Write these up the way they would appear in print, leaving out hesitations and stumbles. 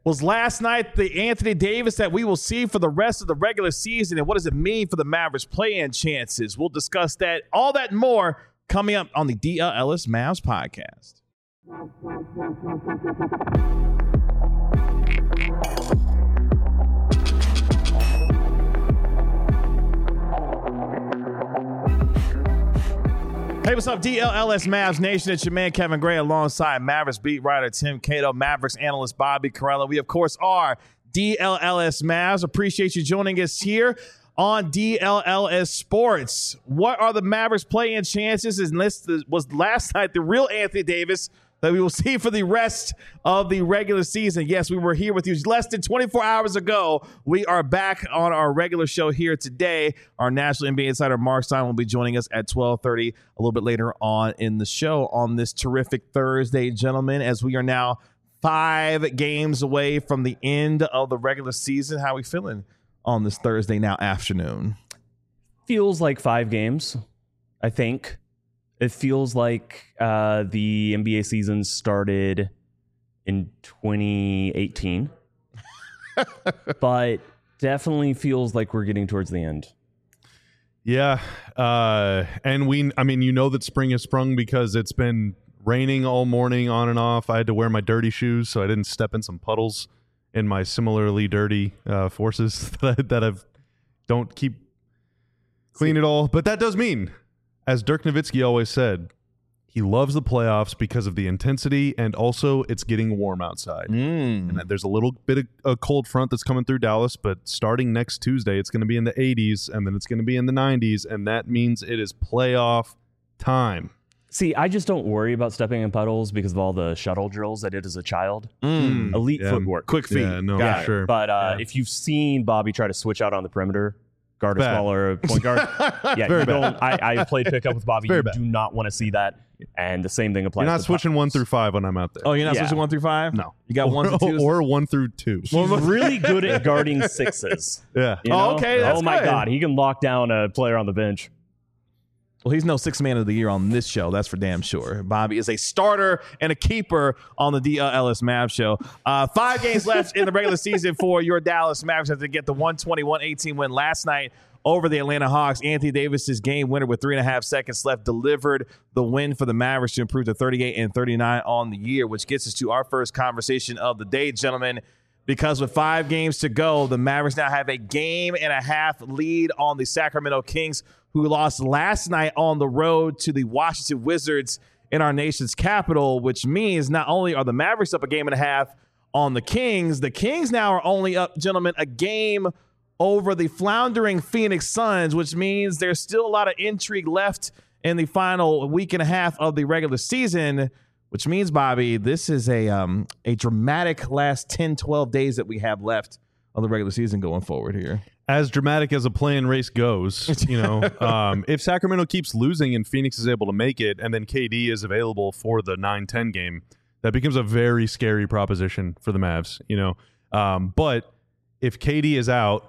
Was last night the Anthony Davis that we will see for the rest of the regular season, and what does it mean for the Mavericks play-in chances? We'll discuss that, all that and more coming up on the DL Ellis Mavs podcast. Hey, what's up, DLLS Mavs Nation? It's your man, Kevin Gray, alongside Mavericks beat writer Tim Cato, Mavericks analyst Bobby Carella. We, of course, are DLLS Mavs. Appreciate you joining us here on DLLS Sports. What are the Mavericks play-in chances? And this was last night the real Anthony Davis that we will see for the rest of the regular season. Yes, we were here with you less than 24 hours ago. We are back on our regular show here today. Our national NBA insider Mark Stein will be joining us at 12:30 a little bit later on in the show on this terrific Thursday, gentlemen, as we are now 5 games away from the end of the regular season. How are we feeling on this Thursday now afternoon? Feels like 5 games, I think. It feels like the NBA season started in 2018, but definitely feels like we're getting towards the end. Yeah, and that spring has sprung because it's been raining all morning on and off. I had to wear my dirty shoes so I didn't step in some puddles in my similarly dirty forces that I've don't keep clean at all. But that does mean, as Dirk Nowitzki always said, he loves the playoffs because of the intensity, and also it's getting warm outside. And there's a little bit of a cold front that's coming through Dallas, but starting next Tuesday, it's going to be in the 80s, and then it's going to be in the 90s, and that means it is playoff time. See, I just don't worry about stepping in puddles because of all the shuttle drills I did as a child. Elite footwork. Quick feet. Yeah, no, Got it. sure. But if you've seen Bobby try to switch out on the perimeter, guard a smaller point guard. Yeah, you don't. I played pickup with Bobby. You do not want to see that. And the same thing applies. You're not to switching 1 through 5 when I'm out there. Oh, you're not switching 1 through 5? No. You got 1 through 2? Or 1 through 2. He's really good at guarding sixes. Yeah. You know? Okay, that's oh my good. God, he can lock down a player on the bench. Well, he's no sixth man of the year on this show. That's for damn sure. Bobby is a starter and a keeper on the DLS Mavs show. 5 games left in the regular season for your Dallas Mavericks after they get the 121-18 win last night over the Atlanta Hawks. Anthony Davis's game winner with 3.5 seconds left delivered the win for the Mavericks to improve to 38-39 on the year, which gets us to our first conversation of the day, gentlemen. Because with 5 games to go, the Mavericks now have a 1.5 game lead on the Sacramento Kings, who lost last night on the road to the Washington Wizards in our nation's capital, which means not only are the Mavericks up 1.5 games on the Kings now are only up, gentlemen, 1 game over the floundering Phoenix Suns, which means there's still a lot of intrigue left in the final 1.5 weeks of the regular season, which means, Bobby, this is a dramatic last 10, 12 days that we have left of the regular season going forward here. As dramatic as a play-in race goes, if Sacramento keeps losing and Phoenix is able to make it, and then KD is available for the 9-10 game, that becomes a very scary proposition for the Mavs. But if KD is out,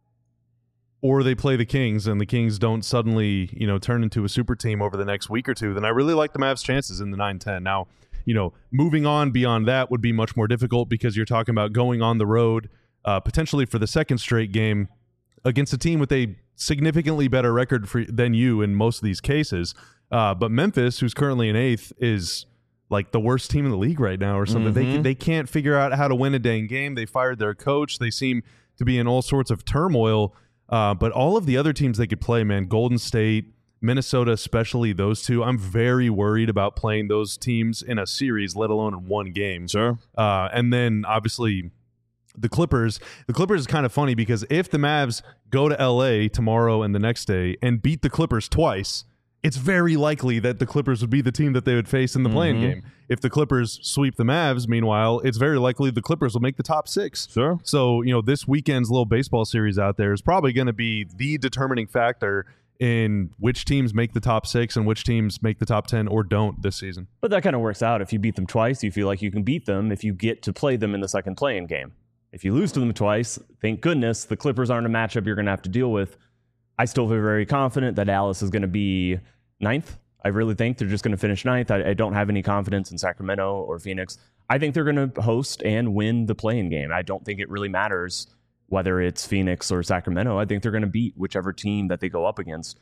or they play the Kings and the Kings don't suddenly, turn into a super team over the next week or two, then I really like the Mavs' chances in the 9-10. Now, moving on beyond that would be much more difficult because you're talking about going on the road, potentially for the second straight game against a team with a significantly better record than you in most of these cases. But Memphis, who's currently in 8th, is like the worst team in the league right now or something. They can't figure out how to win a dang game. They fired their coach. They seem to be in all sorts of turmoil. But all of the other teams they could play, man, Golden State, Minnesota, especially those two, I'm very worried about playing those teams in a series, let alone in 1 game. Sure. And then, obviously, the Clippers is kind of funny because if the Mavs go to LA tomorrow and the next day and beat the Clippers twice, it's very likely that the Clippers would be the team that they would face in the play-in game. If the Clippers sweep the Mavs, meanwhile, it's very likely the Clippers will make the top 6. Sure. So, this weekend's little baseball series out there is probably going to be the determining factor in which teams make the top 6 and which teams make the top 10 or don't this season. But that kind of works out. If you beat them twice, you feel like you can beat them if you get to play them in the second play-in game. If you lose to them twice, thank goodness the Clippers aren't a matchup you're going to have to deal with. I still feel very confident that Dallas is going to be 9th I really think they're just going to finish ninth. I don't have any confidence in Sacramento or Phoenix. I think they're going to host and win the play-in game. I don't think it really matters whether it's Phoenix or Sacramento. I think they're going to beat whichever team that they go up against.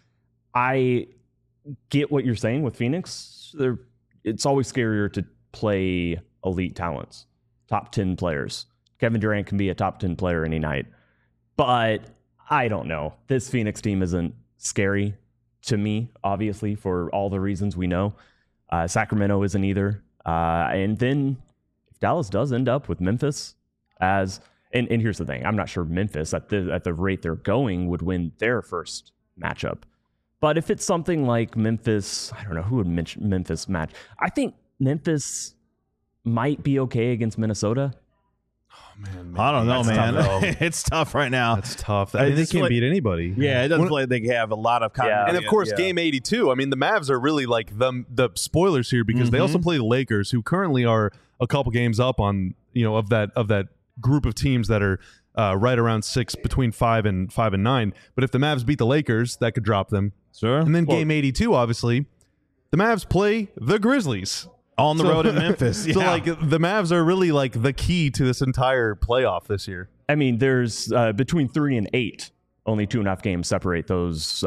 I get what you're saying with Phoenix. It's always scarier to play elite talents, top 10 players. Kevin Durant can be a top 10 player any night. But I don't know. This Phoenix team isn't scary to me, obviously, for all the reasons we know. Sacramento isn't either. And then if Dallas does end up with Memphis and here's the thing, I'm not sure Memphis at the rate they're going would win their first matchup. But if it's something like Memphis, I don't know who would Memphis match. I think Memphis might be okay against Minnesota. Man, I don't know, man. Tough, it's tough right now. That's tough. I mean, they can't beat anybody. Yeah, it doesn't feel like they have a lot of continuity. And of course, game 82. I mean, the Mavs are really like the spoilers here because they also play the Lakers, who currently are a couple games up on of that group of teams that are right around 6, between 5 and 9. But if the Mavs beat the Lakers, that could drop them. Sure. And then game 82, obviously, the Mavs play the Grizzlies. On the road in Memphis. Yeah. So, like, the Mavs are really, like, the key to this entire playoff this year. I mean, there's between 3 and 8, only 2.5 games separate those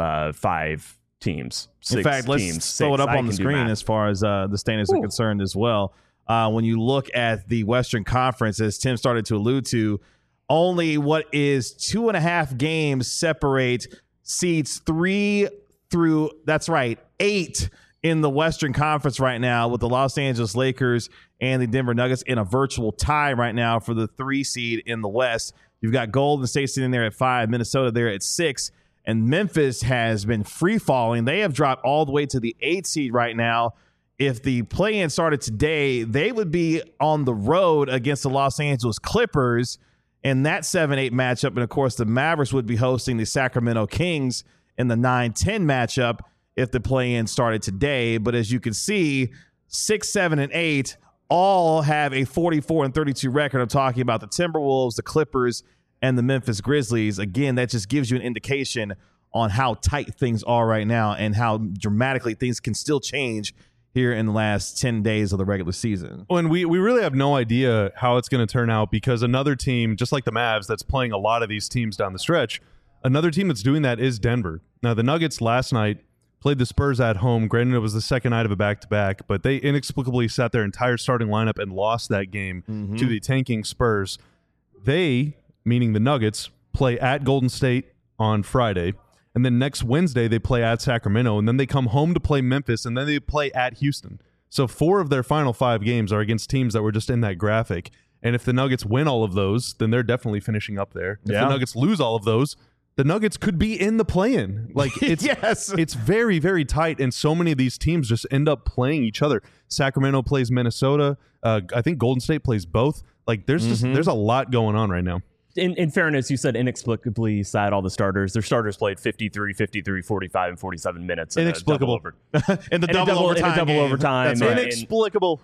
5 teams. In fact, let's throw it up on the screen as far as the standings are concerned as well. When you look at the Western Conference, as Tim started to allude to, only what is 2.5 games separate seeds 3 through, that's right, 8 in the Western Conference right now, with the Los Angeles Lakers and the Denver Nuggets in a virtual tie right now for the 3 seed in the West. You've got Golden State sitting there at 5, Minnesota there at 6, and Memphis has been free falling. They have dropped all the way to the 8 seed right now. If the play-in started today, they would be on the road against the Los Angeles Clippers in that 7-8 matchup. And of course, the Mavericks would be hosting the Sacramento Kings in the 9-10 matchup if the play-in started today. But as you can see, 6, 7, and 8 all have a 44-32 record. I'm talking about the Timberwolves, the Clippers, and the Memphis Grizzlies. Again, that just gives you an indication on how tight things are right now and how dramatically things can still change here in the last 10 days of the regular season. And we really have no idea how it's going to turn out, because another team, just like the Mavs, that's playing a lot of these teams down the stretch, another team that's doing that is Denver. Now, the Nuggets last night played the Spurs at home. Granted, it was the second night of a back-to-back, but they inexplicably sat their entire starting lineup and lost that game to the tanking Spurs. They, meaning the Nuggets, play at Golden State on Friday, and then next Wednesday they play at Sacramento, and then they come home to play Memphis, and then they play at Houston. So 4 of their final 5 games are against teams that were just in that graphic. And if the Nuggets win all of those, then they're definitely finishing up there. If the Nuggets lose all of those, the Nuggets could be in the play-in. Like, it's it's very, very tight, and so many of these teams just end up playing each other. Sacramento plays Minnesota. I think Golden State plays both. Like, there's a lot going on right now. In fairness, you said inexplicably sat all the starters. Their starters played 53, 45, and 47 minutes. Inexplicable. In the double overtime. That's right. Inexplicable.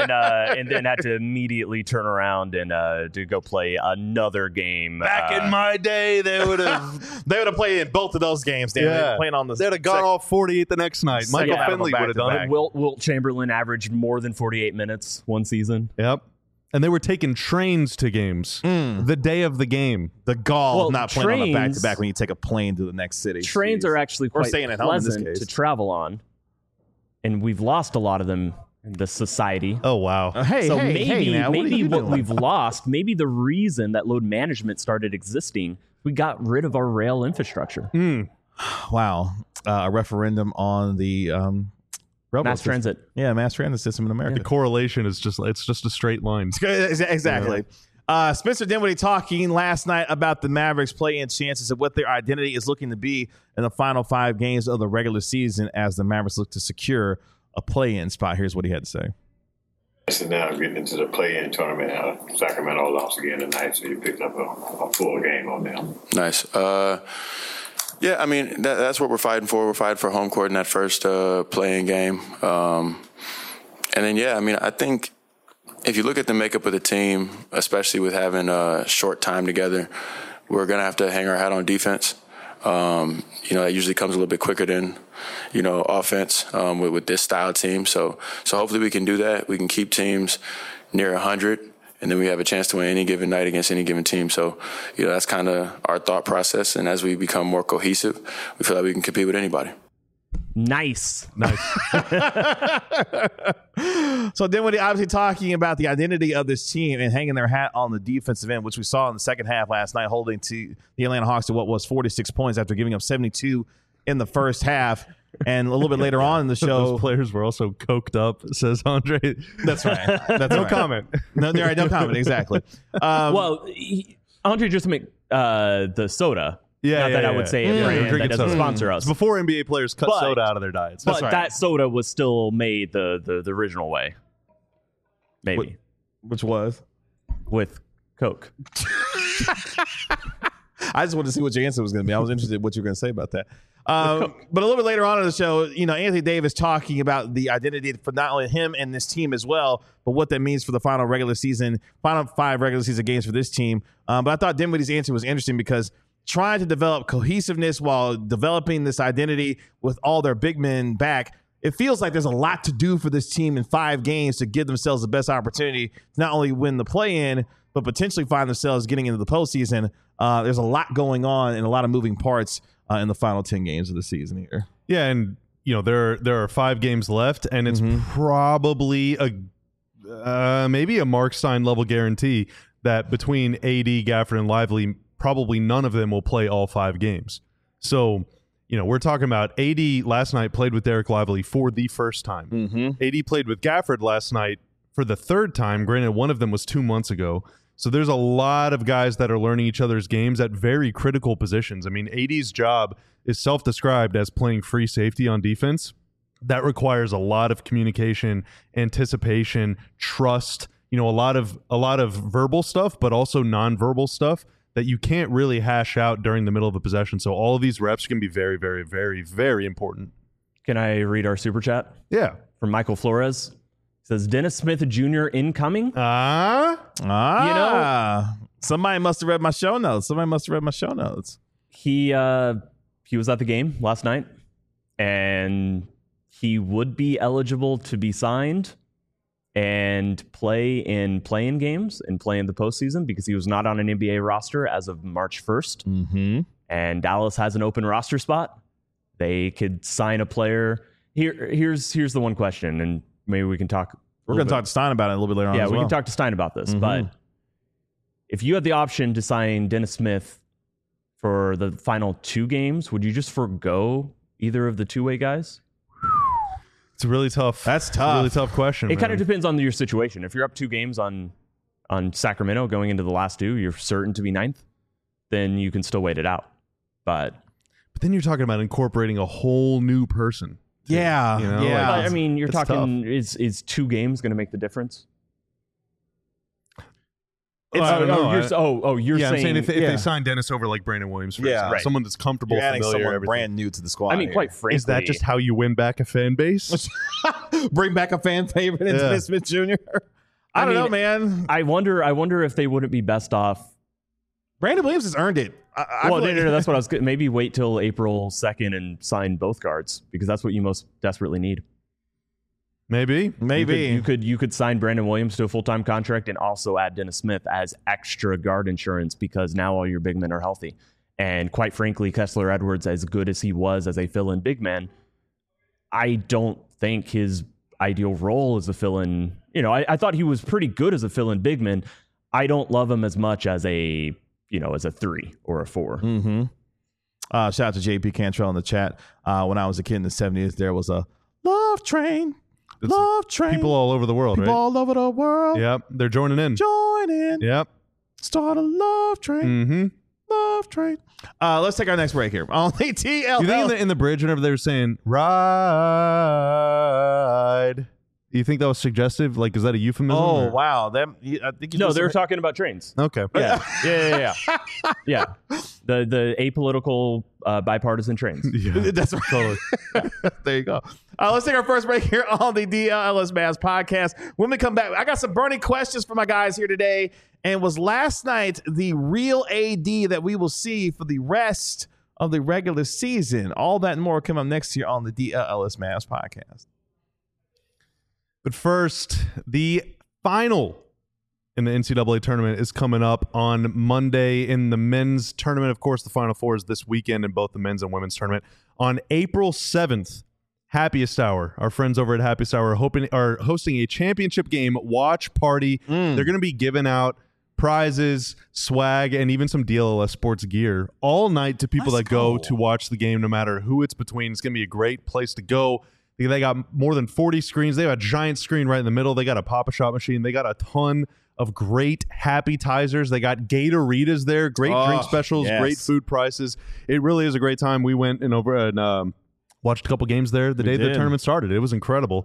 and then had to immediately turn around and to go play another game. Back in my day, they would have played in both of those games. They'd have gone off 48 the next night. Michael Finley would have done it. Wilt Chamberlain averaged more than 48 minutes one season. Yep. And they were taking trains to games the day of the game. The gall of not playing on a back-to-back when you take a plane to the next city. Trains are actually quite pleasant to travel on. And we've lost a lot of them in this society. Oh, wow. Maybe what we've lost, maybe the reason that load management started existing, we got rid of our rail infrastructure. Wow. A referendum on the... mass transit. Yeah, mass transit system in America. The correlation is just a straight line. Exactly. Yeah. Spencer Dinwiddie talking last night about the Mavericks play-in chances and what their identity is looking to be in the final 5 games of the regular season as the Mavericks look to secure a play-in spot. Here's what he had to say. So now getting into the play-in tournament, Sacramento lost again tonight, so you picked up a full game on them. Nice. Yeah, I mean, that's what we're fighting for. We're fighting for home court in that first play-in game. And then, I think if you look at the makeup of the team, especially with having a short time together, we're going to have to hang our hat on defense. That usually comes a little bit quicker than, offense with this style team. So hopefully we can do that. We can keep teams near 100, and then we have a chance to win any given night against any given team. So, that's kind of our thought process. And as we become more cohesive, we feel like we can compete with anybody. Nice. So Dinwiddie obviously talking about the identity of this team and hanging their hat on the defensive end, which we saw in the second half last night, holding to the Atlanta Hawks to what was 46 points after giving up 72 in the first half. And a little bit later on in the show, those players were also coked up, says Andre. That's right. That's No right. comment. No, right, no comment. Exactly. Andre just make the soda. Yeah, Not that I would say a brand drinking that doesn't soda. sponsor us. It's before NBA players cut But- soda out of their diets. But right. that soda was still made the original way. Maybe. Which was? With Coke. I just wanted to see what your answer was going to be. I was interested in what you were going to say about that. But a little bit later on in the show, Anthony Davis talking about the identity for not only him and this team as well, but what that means for the final 5 regular season games for this team. But I thought Dinwiddie's answer was interesting because trying to develop cohesiveness while developing this identity with all their big men back, it feels like there's a lot to do for this team in 5 games to give themselves the best opportunity to not only win the play-in, but potentially find themselves getting into the postseason. There's a lot going on and a lot of moving parts in the final 10 games of the season here. Yeah, and there are 5 games left, and it's probably maybe a Mark Stein level guarantee that between AD, Gafford, and Lively, probably none of them will play all 5 games. So, we're talking about AD last night played with Derek Lively for the first time. AD played with Gafford last night for the 3rd time. Granted, one of them was 2 months ago. So there's a lot of guys that are learning each other's games at very critical positions. I mean, AD's job is self-described as playing free safety on defense. That requires a lot of communication, anticipation, trust, a lot of verbal stuff, but also nonverbal stuff that you can't really hash out during the middle of a possession. So all of these reps can be very, very, very, very important. Can I read our super chat? Yeah. From Michael Flores. Says Dennis Smith Jr. incoming. Somebody must have read my show notes. He was at the game last night, and he would be eligible to be signed and play in play-in games and play in the postseason because he was not on an NBA roster as of March 1st. Mm-hmm. And Dallas has an open roster spot. They could sign a player. Here's the one question, and maybe we can talk. We're going to talk to Stein about it a little bit later on. Yeah, as we well. can talk to Stein about this. Mhm. But if you had the option to sign Dennis Smith for the final 2 games, would you just forego either of the two-way guys? It's really tough. That's It's a tough. really tough question. It kind of depends on your situation. If you're up 2 games on Sacramento going into the last 2, you're certain to be 9th, then you can still wait it out. But then you're talking about incorporating a whole new person. Yeah, yeah. I mean, you're it's talking is 2 games going to make the difference? I don't know. You're I'm saying if saying they sign Dennis over like Brandon Williams, for Yeah. example, Right. someone that's comfortable, You're adding familiar, someone everything. brand new to the squad. I mean, here. quite frankly, Is that just how you win back a fan base? Bring back a fan favorite into Yeah. Dennis Smith Jr. I don't mean, know, man. I wonder if they wouldn't be best off. Brandon Williams has earned it. I Well, feel like- no, that's what I was. Maybe wait till April 2nd and sign both guards because that's what you most desperately need. Maybe. maybe. You could sign Brandon Williams to a full-time contract and also add Dennis Smith as extra guard insurance because now all your big men are healthy. And quite frankly, Kessler Edwards, as good as he was as a fill-in big man, I don't think his ideal role is a fill-in. I thought he was pretty good as a fill-in big man. I don't love him as much as a 3 or a 4. Mm-hmm. Shout out to JP Cantrell in the chat. When I was a kid in the 70s, there was a love train. It's Love train. People all over the world, People right? all over the world. Yep. They're joining in. Join in. Yep. Start a love train. Mm-hmm. Love train. Let's take our next break here. On the TLL. You think in the bridge whenever they were saying ride, do you think that was suggestive? Like, is that a euphemism? Oh, or- wow. I think you No, just- they were talking about trains. Okay. Yeah. Yeah. The apolitical bipartisan trains. Yeah. That's right. Totally. There you go. Let's take our first break here on the DLS Mavs podcast. When we come back, I got some burning questions for my guys here today. And was last night the real AD that we will see for the rest of the regular season. All that and more come up next year on the DLS Mavs podcast. But first, the final in the NCAA tournament is coming up on Monday. In the men's tournament, of course, the Final Four is this weekend in both the men's and women's tournament. On April 7th, Happiest Hour, our friends over at Happiest Hour are hosting a championship game watch party. They're going to be giving out prizes, swag, and even some DLS sports gear all night to people that go to watch the game, no matter who it's between. It's going to be a great place to go. They got more than 40 screens. They have a giant screen right in the middle. They got a Pop-A-Shot machine. They got a ton of great Happy-Tizers. They got Gatoritas there, great drink specials, great food prices. It really is a great time. We went and watched a couple games there the day the tournament started. It was incredible.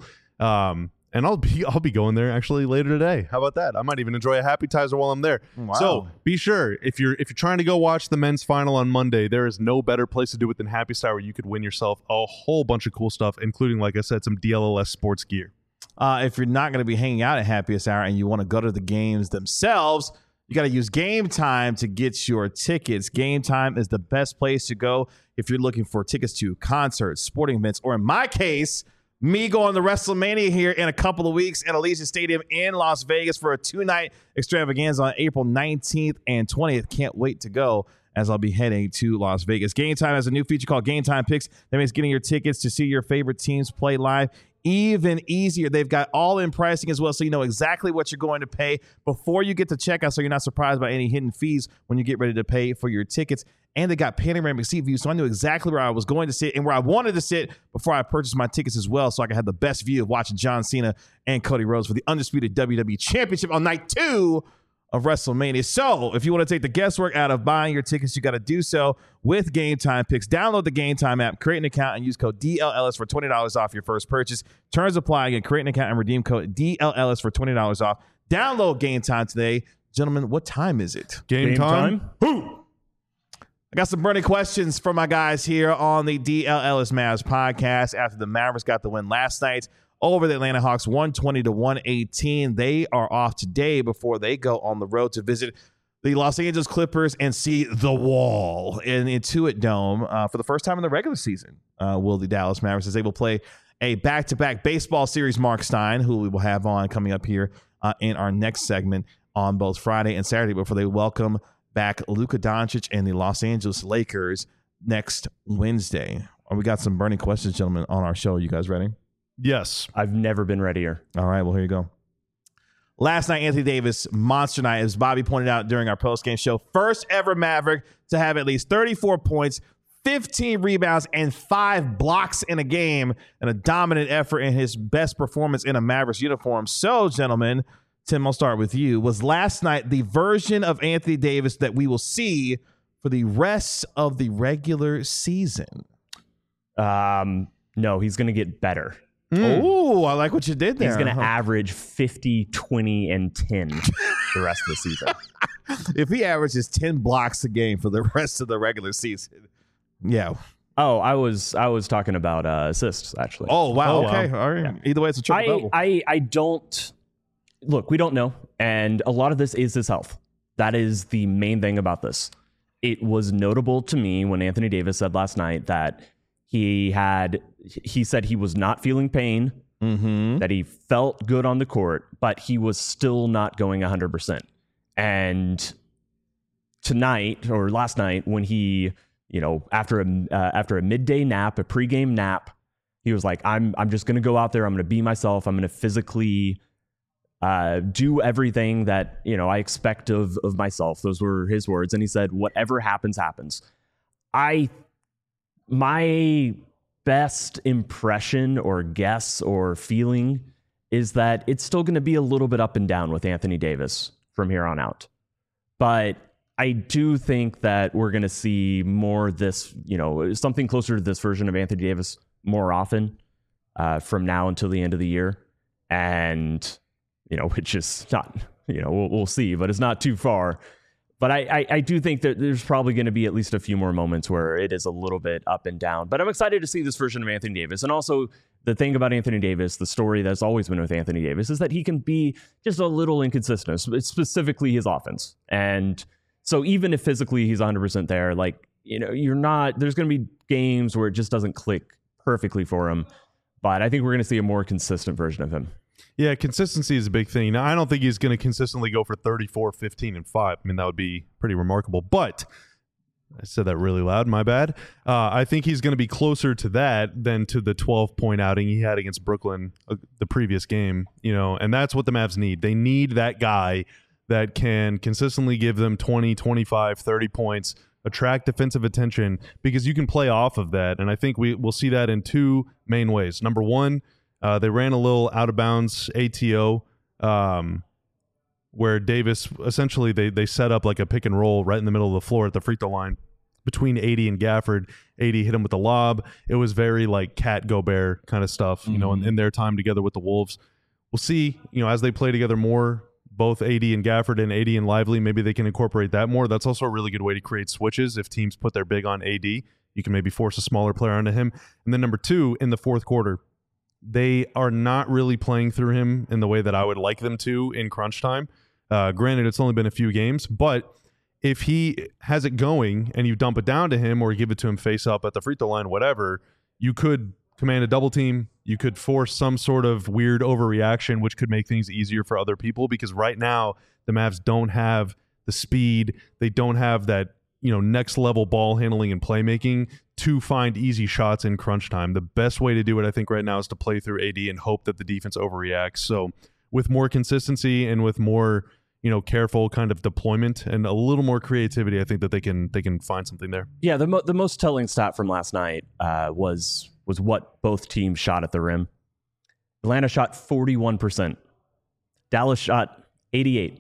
And I'll be going there actually later today. How about that? I might even enjoy a Happy-Tizer while I'm there. Wow. So be sure, if you're trying to go watch the men's final on Monday, there is no better place to do it than Happiest Hour. You could win yourself a whole bunch of cool stuff, including, like I said, some DLS sports gear. If you're not going to be hanging out at Happiest Hour and you want to go to the games themselves, you got to use Game Time to get your tickets. Game Time is the best place to go if you're looking for tickets to concerts, sporting events, or in my case, me going to WrestleMania here in a couple of weeks at Allegiant Stadium in Las Vegas for a 2-night extravaganza on April 19th and 20th. Can't wait to go, as I'll be heading to Las Vegas. Game Time has a new feature called Game Time Picks. That means getting your tickets to see your favorite teams play live even easier. They've got all-in pricing as well, so you know exactly what you're going to pay before you get to checkout, so you're not surprised by any hidden fees when you get ready to pay for your tickets. And they got panoramic seat views, so I knew exactly where I was going to sit and where I wanted to sit before I purchased my tickets as well, so I could have the best view of watching John Cena and Cody Rhodes for the undisputed WWE Championship on night 2 of WrestleMania. So if you want to take the guesswork out of buying your tickets, you got to do so with Game Time Picks. Download the Game Time app, create an account, and use code DLLS for $20 off your first purchase. Terms apply. Again, create an account and redeem code DLLS for $20 off. Download Game Time today. Gentlemen, what time is it? Game time? Who? I got some burning questions for my guys here on the DLLS Mavs podcast after the Mavericks got the win last night over the Atlanta Hawks, 120-118. They are off today before they go on the road to visit the Los Angeles Clippers and see the Wall in Intuit Dome for the first time in the regular season. Will the Dallas Mavericks is able to play a back-to-back baseball series? Mark Stein, who we will have on coming up here in our next segment on both Friday and Saturday before they welcome back Luka Doncic and the Los Angeles Lakers next Wednesday. We got some burning questions, gentlemen, on our show. Are you guys ready? Yes. I've never been readier. All right, well, here you go. Last night, Anthony Davis, monster night, as Bobby pointed out during our postgame show. First ever Maverick to have at least 34 points, 15 rebounds, and 5 blocks in a game, and a dominant effort in his best performance in a Mavericks uniform. So, gentlemen, Tim, I'll start with you. Was last night the version of Anthony Davis that we will see for the rest of the regular season? No, he's going to get better. Oh, I like what you did there. He's going to average 50, 20, and 10 the rest of the season. If he averages 10 blocks a game for the rest of the regular season, yeah. Oh, I was talking about assists, actually. Oh, wow. Oh, Okay. wow. All right. Yeah. Either way, it's a triple double. I don't... Look, we don't know, and a lot of this is his health. That is the main thing about this. It was notable to me when Anthony Davis said last night that he said he was not feeling pain, that he felt good on the court, but he was still not going 100%. And tonight, or last night, when he, after a midday nap, a pregame nap, he was like, I'm just going to go out there. I'm going to be myself. I'm going to physically do everything that, I expect of myself. Those were his words. And he said, whatever happens, happens. My best impression or guess or feeling is that it's still going to be a little bit up and down with Anthony Davis from here on out. But I do think that we're going to see more this, something closer to this version of Anthony Davis more often from now until the end of the year. And which is not, we'll see, but it's not too far. But I do think that there's probably going to be at least a few more moments where it is a little bit up and down. But I'm excited to see this version of Anthony Davis. And also the thing about Anthony Davis, the story that's always been with Anthony Davis, is that he can be just a little inconsistent, specifically his offense. And so even if physically he's 100% there, like there's going to be games where it just doesn't click perfectly for him. But I think we're going to see a more consistent version of him. Yeah, consistency is a big thing. Now, I don't think he's going to consistently go for 34, 15, and 5. I mean, that would be pretty remarkable. But I said that really loud. My bad. I think he's going to be closer to that than to the 12-point outing he had against Brooklyn the previous game. And that's what the Mavs need. They need that guy that can consistently give them 20, 25, 30 points, attract defensive attention, because you can play off of that. And I think we'll see that in two main ways. Number one, they ran a little out of bounds ATO where Davis, essentially they set up like a pick and roll right in the middle of the floor at the free throw line between AD and Gafford. AD hit him with the lob. It was very like Cat Gobert kind of stuff, in their time together with the Wolves. We'll see, as they play together more, both AD and Gafford and AD and Lively, maybe they can incorporate that more. That's also a really good way to create switches. If teams put their big on AD, you can maybe force a smaller player onto him. And then number two, in the fourth quarter, they are not really playing through him in the way that I would like them to in crunch time. Granted, it's only been a few games, but if he has it going and you dump it down to him or give it to him face up at the free throw line, whatever, you could command a double team. You could force some sort of weird overreaction, which could make things easier for other people, because right now the Mavs don't have the speed. They don't have that, next level ball handling and playmaking to find easy shots in crunch time. The best way to do it, I think, right now is to play through AD and hope that the defense overreacts. So with more consistency and with more, careful kind of deployment and a little more creativity, I think that they can find something there. Yeah, the most telling stat from last night was what both teams shot at the rim. Atlanta shot 41%. Dallas shot 88%.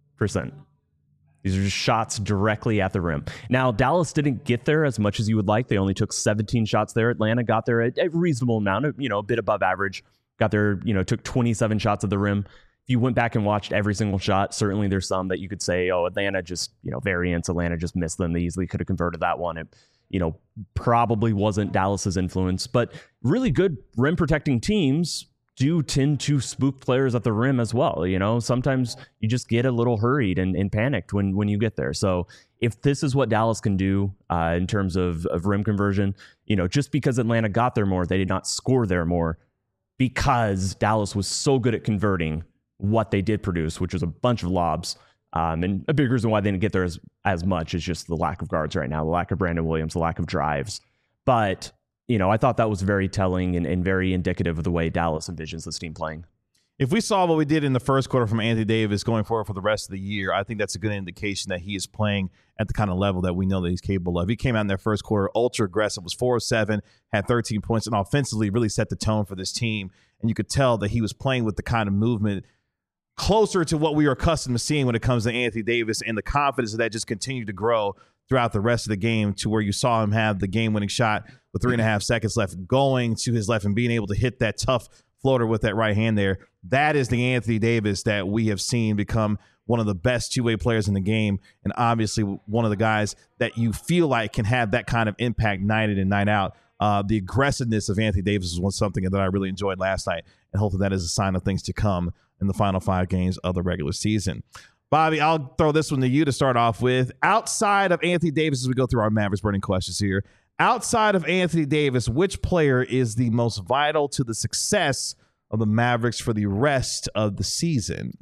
These are just shots directly at the rim. Now, Dallas didn't get there as much as you would like. They only took 17 shots there. Atlanta got there a reasonable amount, a bit above average. Got there, took 27 shots at the rim. If you went back and watched every single shot, certainly there's some that you could say, Atlanta just, variance. Atlanta just missed them. They easily could have converted that one. It, probably wasn't Dallas's influence, but really good rim protecting teams do tend to spook players at the rim as well. Sometimes you just get a little hurried and panicked when you get there. So if this is what Dallas can do in terms of rim conversion, just because Atlanta got there more, they did not score there more, because Dallas was so good at converting what they did produce, which was a bunch of lobs. And a big reason why they didn't get there as much is just the lack of guards right now, the lack of Brandon Williams, the lack of drives. But, I thought that was very telling and very indicative of the way Dallas envisions this team playing. If we saw what we did in the first quarter from Anthony Davis going forward for the rest of the year, I think that's a good indication that he is playing at the kind of level that we know that he's capable of. He came out in their first quarter ultra aggressive, was 4 of 7, had 13 points, and offensively really set the tone for this team. And you could tell that he was playing with the kind of movement closer to what we are accustomed to seeing when it comes to Anthony Davis, and the confidence of that just continued to grow throughout the rest of the game, to where you saw him have the game-winning shot with 3.5 seconds left, going to his left and being able to hit that tough floater with that right hand there. That is the Anthony Davis that we have seen become one of the best two-way players in the game, and obviously one of the guys that you feel like can have that kind of impact night in and night out. The aggressiveness of Anthony Davis was something that I really enjoyed last night, and hopefully that is a sign of things to come in the final 5 games of the regular season. Bobby, I'll throw this one to you to start off with. Outside of Anthony Davis, as we go through our Mavericks burning questions here, outside of Anthony Davis, which player is the most vital to the success of the Mavericks for the rest of the season?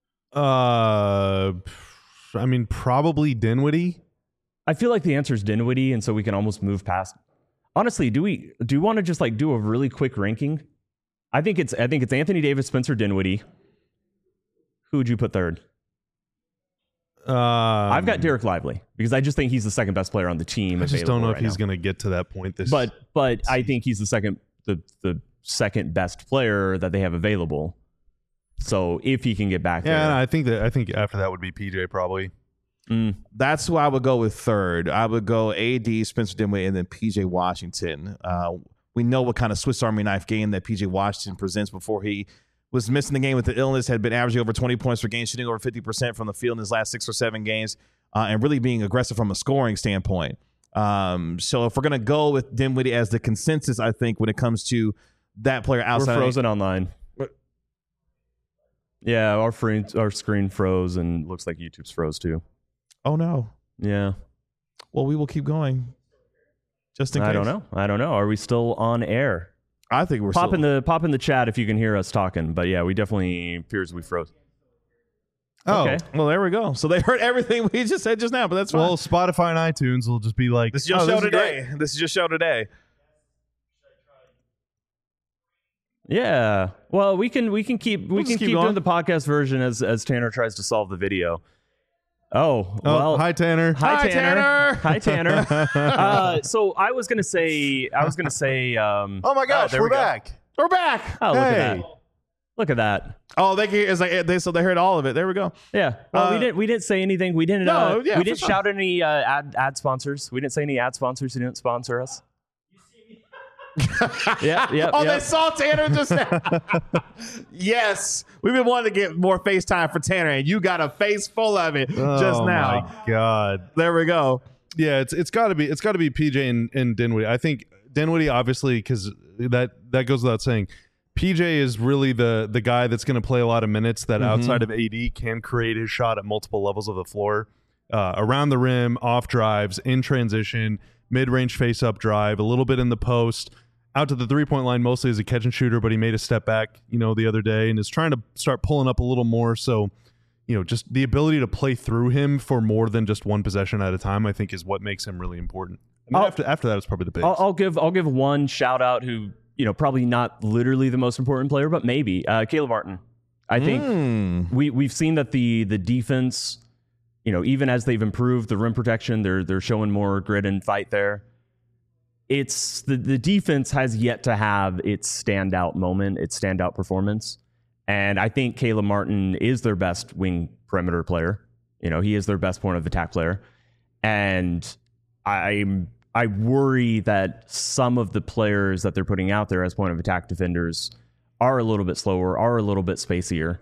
Probably Dinwiddie. I feel like the answer is Dinwiddie, and so we can almost move past. Honestly, do we want to just do a really quick ranking? I think it's Anthony Davis, Spencer Dinwiddie. Who would you put third? I've got Derek Lively, because I just think he's the second best player on the team. I just don't know if he's going to get to that point this. But I think he's the second best player that they have available. So if he can get back there, I think after that would be PJ probably. That's who I would go with third. I would go AD, Spencer Dinwiddie, and then PJ Washington. We know what kind of Swiss Army knife game that PJ Washington presents. Before he was missing the game with the illness, had been averaging over 20 points per game, shooting over 50% from the field in his last 6 or 7 games, and really being aggressive from a scoring standpoint. So if we're going to go with Dinwiddie as the consensus, I think when it comes to that player outside. We're frozen online. Yeah, our screen froze, and looks like YouTube's froze too. Oh, no. Yeah. Well, we will keep going. Just in case. I don't know. Are we still on air? I think we're pop in the chat if you can hear us talking. But yeah, we definitely appears we froze. Oh, Okay. Well, there we go. So they heard everything we just said just now, but that's fine. well, Spotify and iTunes will just be like, This is your show today. This is your show today. Yeah. Well, we can keep just keep doing going. the podcast version as Tanner tries to solve the video. Oh, well. Hi, Tanner. Hi, Tanner. Hi, Tanner. Hi, Tanner. So I was gonna say. Oh my gosh, there we're we go. back. We're back. Oh, look at Hey. that. Look at that. Oh, they can hear, it's like so they heard all of it. There we go. Yeah. Well, we didn't say anything. We didn't. No, yeah, we for didn't sure. shout any ad sponsors. We didn't say any ad sponsors who didn't sponsor us. Yeah. Oh, they saw Tanner just now. Yes. We've been wanting to get more FaceTime for Tanner, and you got a face full of it just Oh now. my God. There we go. Yeah, it's got to be PJ and Dinwiddie. I think Dinwiddie, obviously, because that goes without saying. PJ is really the guy that's going to play a lot of minutes that outside of AD can create his shot at multiple levels of the floor, around the rim, off drives, in transition, mid-range face-up drive, a little bit in the post, out to the three-point line mostly as a catch and shooter, but he made a step back, the other day and is trying to start pulling up a little more. So, just the ability to play through him for more than just one possession at a time, I think, is what makes him really important. And then after that, it's probably the bigs. I'll give one shout out who probably not literally the most important player, but maybe Caleb Martin. I think we've seen that the defense, even as they've improved the rim protection, they're showing more grit and fight there. It's the defense has yet to have its standout moment, its standout performance. And I think Caleb Martin is their best wing perimeter player. He is their best point of attack player. And I worry that some of the players that they're putting out there as point of attack defenders are a little bit slower, are a little bit spacier.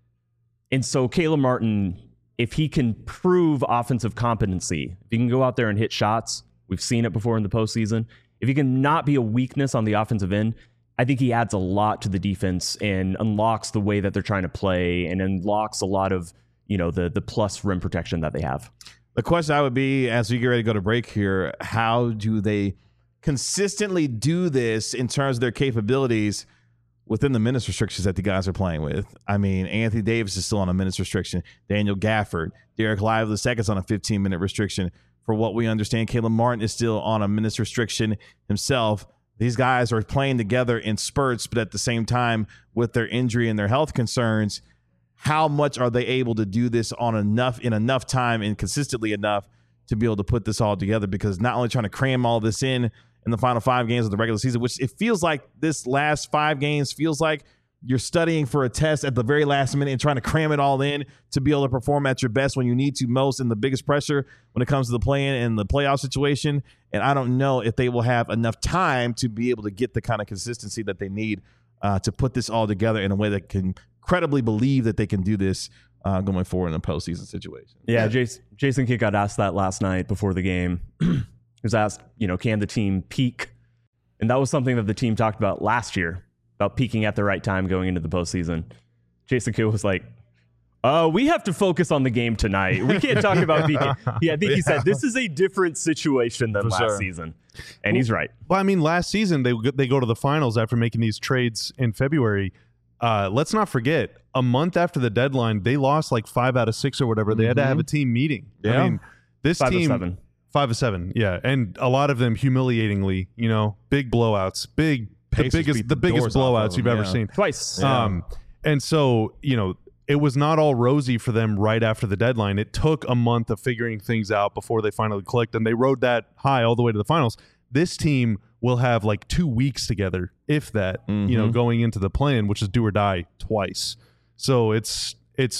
And so Caleb Martin, if he can prove offensive competency, if he can go out there and hit shots, we've seen it before in the postseason. If he can not be a weakness on the offensive end, I think he adds a lot to the defense and unlocks the way that they're trying to play and unlocks a lot of, the plus rim protection that they have. The question I would be, as we get ready to go to break here, how do they consistently do this in terms of their capabilities within the minutes restrictions that the guys are playing with? I mean, Anthony Davis is still on a minutes restriction. Daniel Gafford, Derek Lively II is on a 15-minute restriction. For what we understand, Caleb Martin is still on a minutes restriction himself. These guys are playing together in spurts, but at the same time, with their injury and their health concerns, how much are they able to do this in enough time and consistently enough to be able to put this all together? Because not only trying to cram all this in the final 5 games of the regular season, which it feels like this last 5 games feels like you're studying for a test at the very last minute and trying to cram it all in to be able to perform at your best when you need to most and the biggest pressure when it comes to the play-in and the playoff situation. And I don't know if they will have enough time to be able to get the kind of consistency that they need to put this all together in a way that can credibly believe that they can do this going forward in a postseason situation. Yeah, Jason Kidd got asked that last night before the game. He was asked, can the team peak? And that was something that the team talked about last year, about peaking at the right time going into the postseason. Jason Kidd was like, we have to focus on the game tonight. We can't talk about peaking. Yeah, I think he said this is a different situation than last season. And he's right. Well, I mean, last season they go to the finals after making these trades in February. Let's not forget, a month after the deadline, they lost like 5 out of 6 or whatever. They had to have a team meeting. Yeah. I mean, this 5 team, of 7. 5 of 7, yeah, and a lot of them humiliatingly, big blowouts, the biggest doors off blowouts of you've them, ever yeah. seen. Twice. And so, it was not all rosy for them right after the deadline. It took a month of figuring things out before they finally clicked, and they rode that high all the way to the finals. This team will have like 2 weeks together, if that, going into the play-in, which is do or die twice. So it's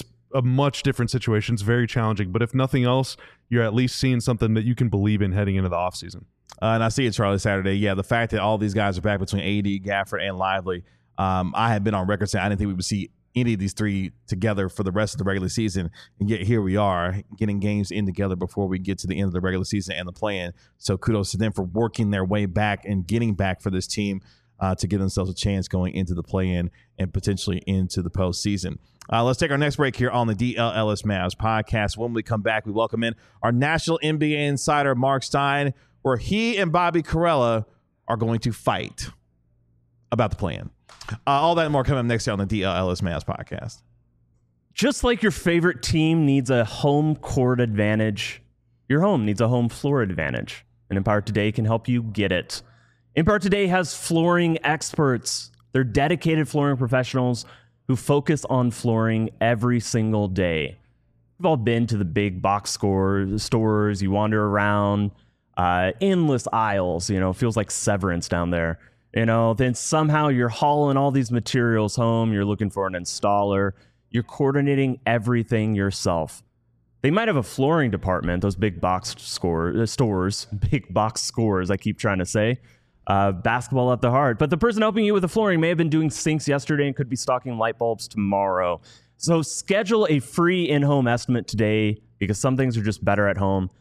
a much different situation. It's very challenging. But if nothing else, you're at least seeing something that you can believe in heading into the offseason. And I see it, Charlie, Saturday. Yeah, the fact that all these guys are back between AD, Gafford, and Lively, I had been on record saying I didn't think we would see any of these three together for the rest of the regular season. And yet here we are getting games in together before we get to the end of the regular season and the play-in. So kudos to them for working their way back and getting back for this team. to give themselves a chance going into the play-in and potentially into the postseason. Let's take our next break here on the DLLS Mavs podcast. When we come back, we welcome in our national NBA insider, Mark Stein, where he and Bobby Karalla are going to fight about the play-in. All that and more coming up next year on the DLLS Mavs podcast. Just like your favorite team needs a home court advantage, your home needs a home floor advantage. And Empire Today can help you get it. Empire Today has flooring experts. They're dedicated flooring professionals who focus on flooring every single day. We've all been to the big box stores. You wander around, endless aisles, feels like Severance down there. Then somehow you're hauling all these materials home. You're looking for an installer. You're coordinating everything yourself. They might have a flooring department, those big box stores, big box scores, I keep trying to say. Basketball at the heart. But the person helping you with the flooring may have been doing sinks yesterday and could be stocking light bulbs tomorrow. So schedule a free in-home estimate today because some things are just better at home.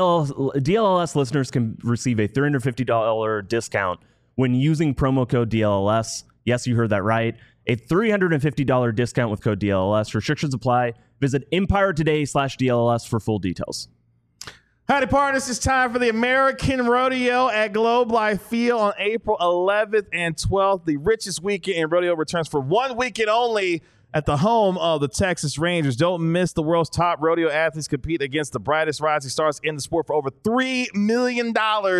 DLLS listeners can receive a $350 discount when using promo code DLLS. Yes, you heard that right. A $350 discount with code DLLS. Restrictions apply. Visit EmpireToday/DLLS for full details. Howdy, partners. It's time for the American Rodeo at Globe Life Field on April 11th and 12th. The richest weekend in rodeo returns for 1 weekend only at the home of the Texas Rangers. Don't miss the world's top rodeo athletes compete against the brightest rising stars in the sport for over $3 million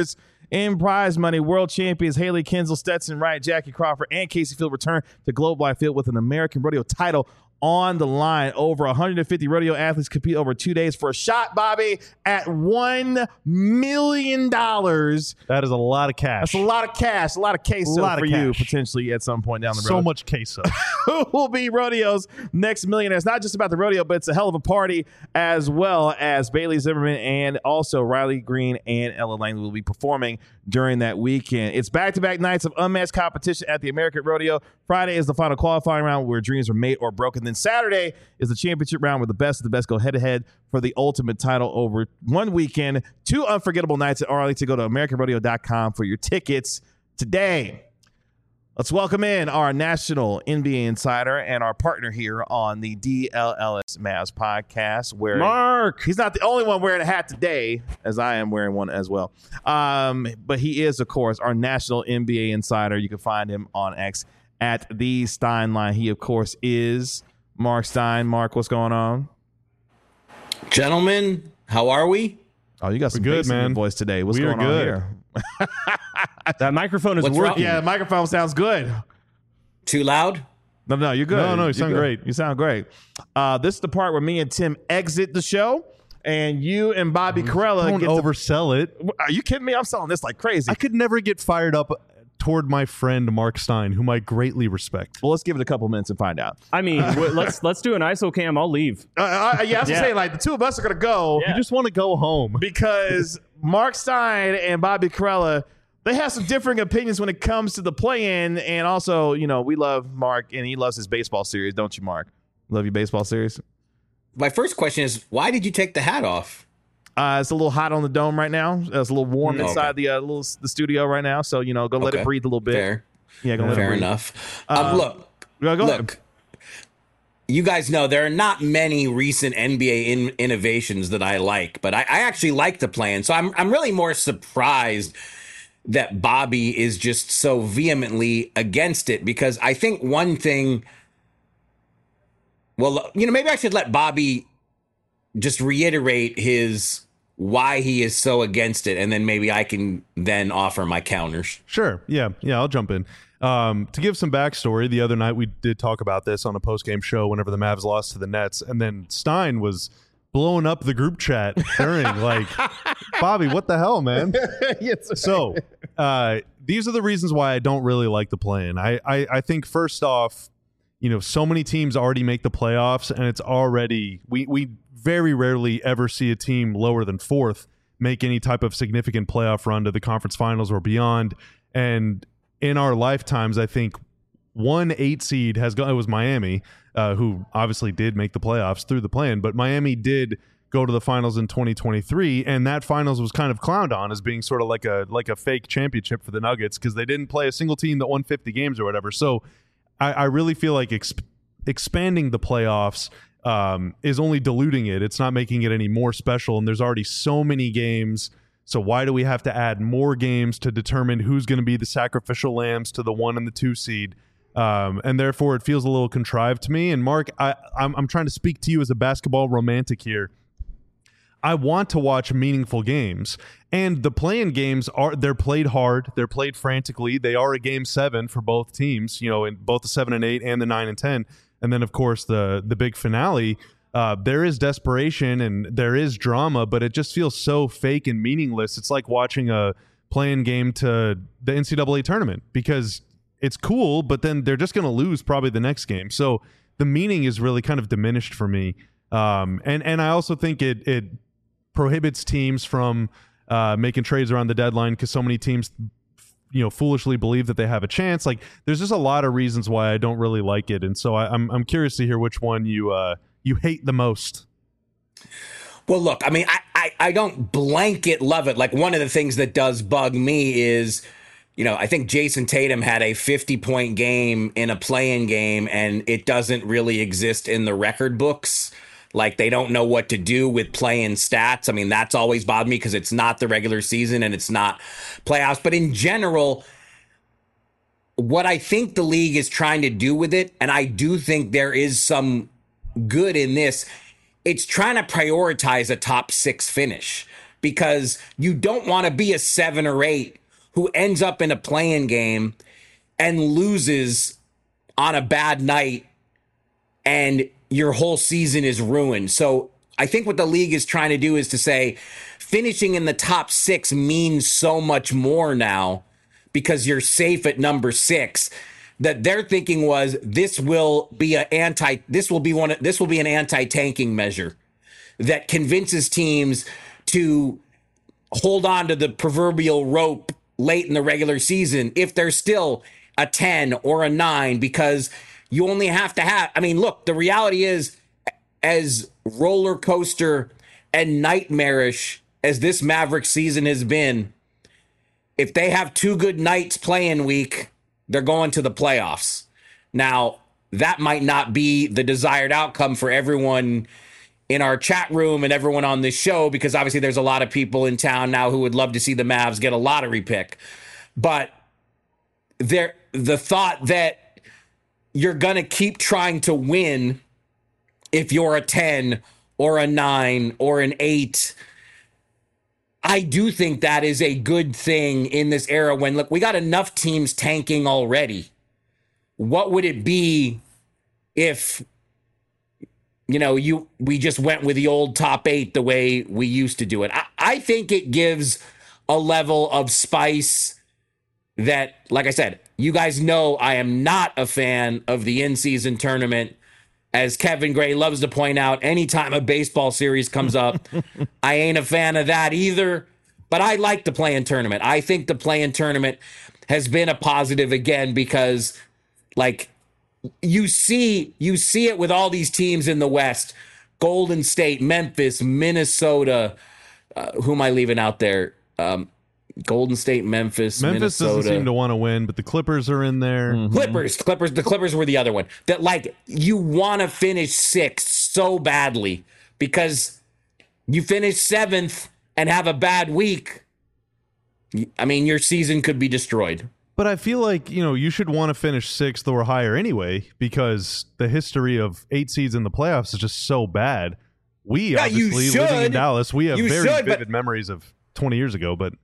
in prize money. World champions Haley Kinsel, Stetson Wright, Jackie Crawford, and Casey Field return to Globe Life Field with an American Rodeo title on the line. Over 150 rodeo athletes compete over 2 days for a shot, Bobby, at $1 million. That is a lot of cash. That's a lot of cash, a lot of queso for you potentially at some point down the road. So much queso. Who will be rodeo's next millionaire? It's not just about the rodeo, but it's a hell of a party as well, as Bailey Zimmerman and also Riley Green and Ella Langley will be performing during that weekend. It's back-to-back nights of unmatched competition at the American Rodeo. Friday is the final qualifying round where dreams are made or broken. Then Saturday is the championship round where the best of the best go head-to-head for the ultimate title over 1 weekend. 2 unforgettable nights at Arlington. Go to AmericanRodeo.com for your tickets today. Let's welcome in our national NBA insider and our partner here on the DLLS Mavs podcast. Where Mark! He's not the only one wearing a hat today, as I am wearing one as well. But he is, of course, our national NBA insider. You can find him on X at the Steinline. He, of course, is Mark Stein. Mark, what's going on? Gentlemen, how are we? Oh, you got some good, bass in your man. voice today. What's We are going on good. here? That microphone is What's wrong? working. Yeah, the microphone sounds good. Too loud? No, you're good. No, you You're sound good. great. You sound great. This is the part where me and Tim exit the show, and you and Bobby Karalla Don't get oversell it. Are you kidding me? I'm selling this like crazy. I could never get fired up toward my friend Mark Stein, whom I greatly respect. Well, let's give it a couple minutes and find out. I mean, let's do an ISO cam. I'll leave. Yeah, I was saying, like, the two of us are going to go You just want to go home. because Mark Stein and Bobby Karalla, they have some differing opinions when it comes to the play-in. And also, we love Mark, and he loves his baseball series, don't you, Mark? Love your baseball series? My first question is, why did you take the hat off? It's a little hot on the dome right now. It's a little warm inside the studio right now. So, go let it breathe a little bit. Fair. Yeah, go let it Fair breathe. enough. Go Look, ahead. you guys know there are not many recent NBA innovations that I like, but I actually like the plan. So I'm really more surprised that Bobby is just so vehemently against it, because I think one thing, maybe I should let Bobby just reiterate why he is so against it, and then maybe I can then offer my counters. Sure. Yeah, I'll jump in. To give some backstory, the other night we did talk about this on a post-game show whenever the Mavs lost to the Nets, and then Stein was blowing up the group chat during, like, Bobby, what the hell, man? So these are the reasons why I don't really like the play-in. I think, first off, so many teams already make the playoffs, and it's already we very rarely ever see a team lower than 4th make any type of significant playoff run to the conference finals or beyond. And in our lifetimes, I think 1 8 seed has gone. It was Miami, who obviously did make the playoffs through the play-in, but Miami did go to the finals in 2023, and that finals was kind of clowned on as being sort of like a fake championship for the Nuggets because they didn't play a single team that won 50 games or whatever. So I really feel like expanding the playoffs is only diluting it. It's not making it any more special, and there's already so many games. So why do we have to add more games to determine who's going to be the sacrificial lambs to the 1 and the 2 seed? And therefore, it feels a little contrived to me. And Mark, I'm trying to speak to you as a basketball romantic here. I want to watch meaningful games, and the play-in games they're played hard, they're played frantically. They are a game 7 for both teams, in both the 7 and 8 and the 9 and 10, and then of course the big finale. There is desperation and there is drama, but it just feels so fake and meaningless. It's like watching a play-in game to the NCAA tournament because it's cool, but then they're just going to lose probably the next game. So the meaning is really kind of diminished for me. And I also think it prohibits teams from making trades around the deadline because so many teams, foolishly believe that they have a chance. Like, there's just a lot of reasons why I don't really like it, and so I'm curious to hear which one you hate the most. Well, look, I mean, I don't blanket love it. Like, one of the things that does bug me is, I think Jason Tatum had a 50-point game in a play-in game, and it doesn't really exist in the record books. Like, they don't know what to do with play-in stats. I mean, that's always bothered me because it's not the regular season and it's not playoffs. But in general, what I think the league is trying to do with it, and I do think there is some good in this, it's trying to prioritize a top 6 finish because you don't want to be a 7 or 8 who ends up in a play-in game and loses on a bad night and your whole season is ruined. So I think what the league is trying to do is to say finishing in the top 6 means so much more now because you're safe at number 6, that their thinking was this will be an anti-tanking measure that convinces teams to hold on to the proverbial rope late in the regular season if they're still a 10 or a 9, because you only have to have, I mean, look, the reality is, as roller coaster and nightmarish as this Maverick season has been, if they have 2 good nights play-in week, they're going to the playoffs. Now, that might not be the desired outcome for everyone in our chat room and everyone on this show, because obviously there's a lot of people in town now who would love to see the Mavs get a lottery pick. But the thought that you're going to keep trying to win if you're a 10 or a 9 or an 8, I do think that is a good thing in this era when, look, we got enough teams tanking already. What would it be if, we just went with the old top 8 the way we used to do it? I think it gives a level of spice that, like I said, you guys know I am not a fan of the in-season tournament. As Kevin Gray loves to point out, anytime a baseball series comes up, I ain't a fan of that either. But I like the play-in tournament. I think the play-in tournament has been a positive again because, like, you see it with all these teams in the West: Golden State, Memphis, Minnesota. Who am I leaving out there? Golden State, Memphis, Minnesota. Doesn't seem to want to win, but the Clippers are in there. Mm-hmm. The Clippers were the other one that, like, you want to finish 6th so badly because you finish 7th and have a bad week. I mean, your season could be destroyed. But I feel like, you should want to finish 6th or higher anyway, because the history of 8 seeds in the playoffs is just so bad. We obviously, living in Dallas, we have vivid memories of 20 years ago, but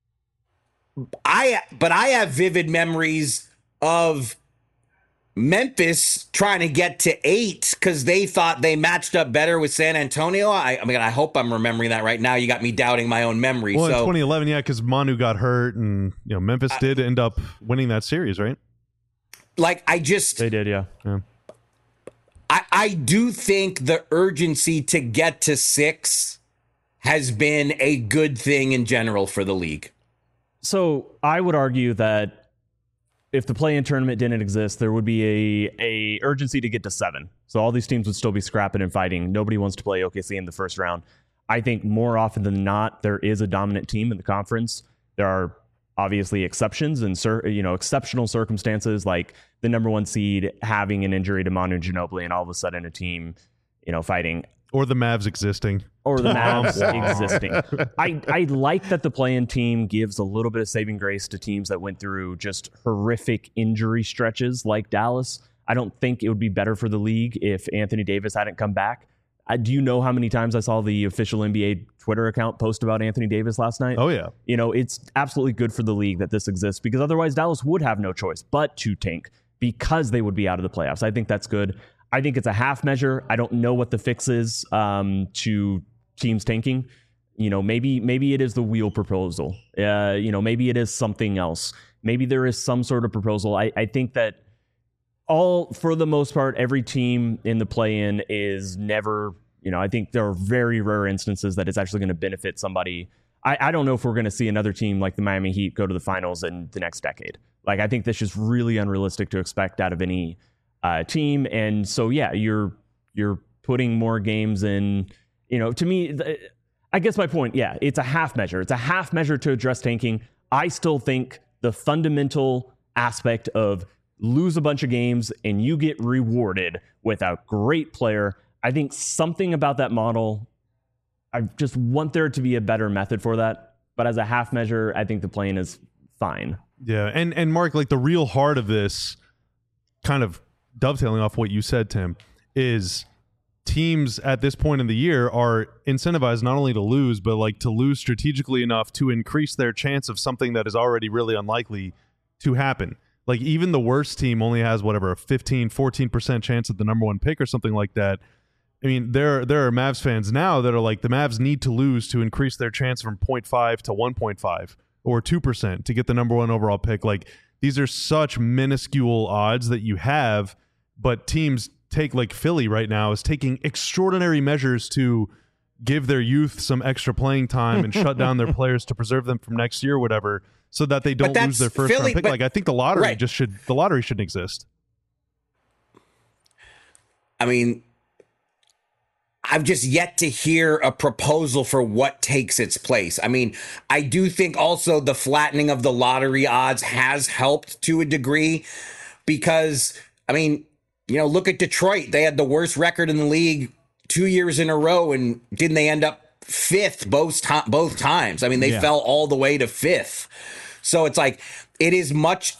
I have vivid memories of Memphis trying to get to 8 because they thought they matched up better with San Antonio. I hope I'm remembering that right now. You got me doubting my own memory. Well, in 2011, yeah, because Manu got hurt, and Memphis did end up winning that series, right? They did, yeah. I do think the urgency to get to 6 has been a good thing in general for the league. So I would argue that if the play-in tournament didn't exist, there would be a urgency to get to 7. So all these teams would still be scrapping and fighting. Nobody wants to play OKC in the first round. I think more often than not, there is a dominant team in the conference. There are obviously exceptions and exceptional circumstances, like the number 1 seed having an injury to Manu Ginobili and all of a sudden a team, fighting. Or the Mavs existing. Or the Mavs existing. I like that the play-in team gives a little bit of saving grace to teams that went through just horrific injury stretches like Dallas. I don't think it would be better for the league if Anthony Davis hadn't come back. Do you know how many times I saw the official NBA Twitter account post about Anthony Davis last night? Oh, yeah. It's absolutely good for the league that this exists, because otherwise Dallas would have no choice but to tank because they would be out of the playoffs. I think that's good. I think it's a half measure. I don't know what the fix is to teams tanking. Maybe it is the wheel proposal. Maybe it is something else. Maybe there is some sort of proposal. I think that for the most part, every team in the play-in is never, I think there are very rare instances that it's actually going to benefit somebody. I don't know if we're going to see another team like the Miami Heat go to the finals in the next decade. Like, I think this is really unrealistic to expect out of any team. And so, yeah, you're putting more games in, to me, I guess my point, yeah, it's a half measure. It's a half measure to address tanking. I still think the fundamental aspect of lose a bunch of games and you get rewarded with a great player. I think something about that model, I just want there to be a better method for that. But as a half measure, I think the play-in is fine. Yeah, and Mark, like the real heart of this, kind of dovetailing off what you said, Tim, is teams at this point in the year are incentivized not only to lose, but like to lose strategically enough to increase their chance of something that is already really unlikely to happen. Like, even the worst team only has whatever a 14% chance at the number 1 pick or something like that. I mean, there are Mavs fans now that are like, the Mavs need to lose to increase their chance from 0.5 to 1.5 or 2% to get the number 1 overall pick. Like, these are such minuscule odds that you have, but teams take, like Philly right now is taking extraordinary measures to give their youth some extra playing time and shut down their players to preserve them from next year or whatever, so that they don't lose their first round pick. Like, I think the lottery shouldn't exist. I mean, I've just yet to hear a proposal for what takes its place. I mean, I do think also the flattening of the lottery odds has helped to a degree, because, I mean, look at Detroit. They had the worst record in the league 2 years in a row, and didn't they end up 5th both times? I mean, they fell all the way to 5th. So it's like, it's much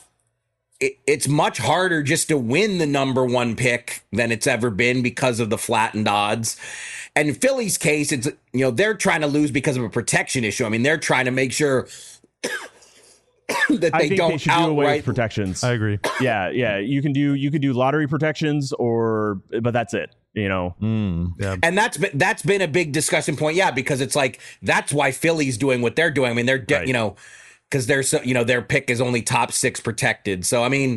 harder just to win the number 1 pick than it's ever been because of the flattened odds. And in Philly's case, it's, they're trying to lose because of a protection issue. I mean, they're trying to make sure that they don't do away with protections. I agree. Yeah. You can do lottery protections, but that's it. Yeah. And that's been a big discussion point. Yeah, because it's like, that's why Philly's doing what they're doing. I mean, they're because they're so, their pick is only top 6 protected. So I mean,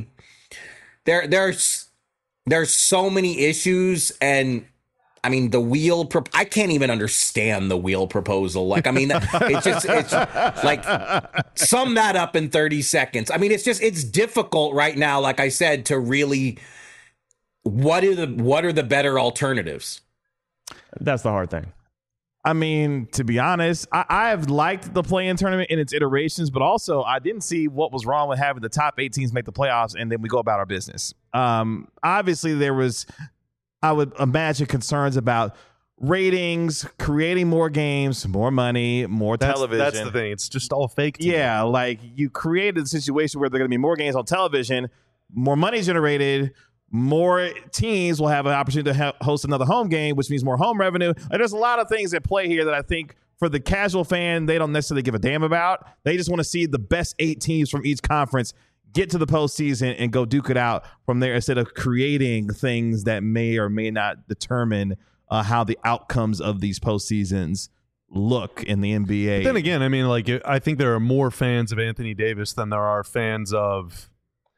there's so many issues, and I mean, the wheel, I can't even understand the wheel proposal. Like, I mean, it's like, sum that up in 30 seconds. I mean, it's difficult right now, like I said, to really, what are the better alternatives? That's the hard thing. I mean, to be honest, I have liked the play-in tournament in its iterations, but also I didn't see what was wrong with having the top 8 teams make the playoffs and then we go about our business. Obviously, there was, I would imagine, concerns about ratings, creating more games, more money, more television. That's the thing. It's just all fake. Yeah, like you created a situation where there are going to be more games on television, more money generated, more teams will have an opportunity to host another home game, which means more home revenue. And there's a lot of things at play here that I think for the casual fan, they don't necessarily give a damn about. They just want to see the best 8 teams from each conference get to the postseason and go duke it out from there, instead of creating things that may or may not determine how the outcomes of these postseasons look in the NBA. But then again, I mean, like, I think there are more fans of Anthony Davis than there are fans of,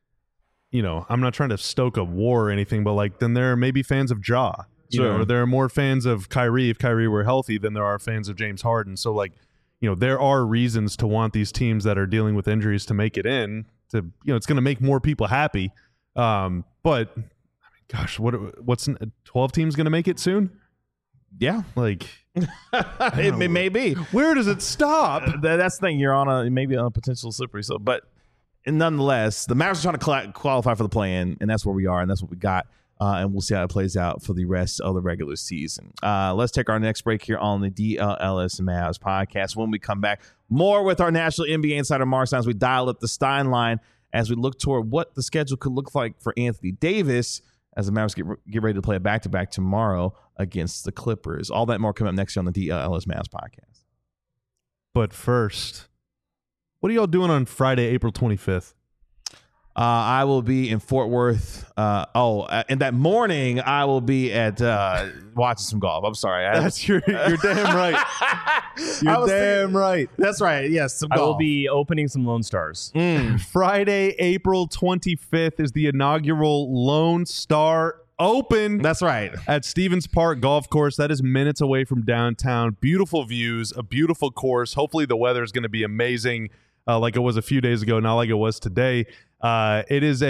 I'm not trying to stoke a war or anything, but like, then there are maybe fans of Ja. Or there are more fans of Kyrie if Kyrie were healthy than there are fans of James Harden. So, like, there are reasons to want these teams that are dealing with injuries to make it in. To it's going to make more people happy. But I mean, gosh, what's 12 teams going to make it soon? Yeah, Like, it may be. where does it stop? That's the thing. You're on maybe on a potential slippery slope, but nonetheless, the Mavericks are trying to qualify for the play-in, and that's where we are, and that's what we got. And we'll see how it plays out for the rest of the regular season. Let's take our next break here on the DLS Mavs podcast. When we come back, more with our national NBA insider Mark Stein as we dial up the Stein line as we look toward what the schedule could look like for Anthony Davis as the Mavericks get ready to play a back-to-back tomorrow against the Clippers. All that and more coming up next year on the DLS Mavs podcast. But first, what are y'all doing on Friday, April 25th? I will be in Fort Worth. And that morning I will be at watching some golf. I'm sorry. You're damn right. You're damn right. That's right. Yes, some I golf. will be opening some Lone Stars. Friday, April 25th is the inaugural Lone Star Open. That's right. At Stevens Park Golf Course. That is minutes away from downtown. Beautiful views, a beautiful course. Hopefully the weather is going to be amazing, like it was a few days ago, not like it was today. It is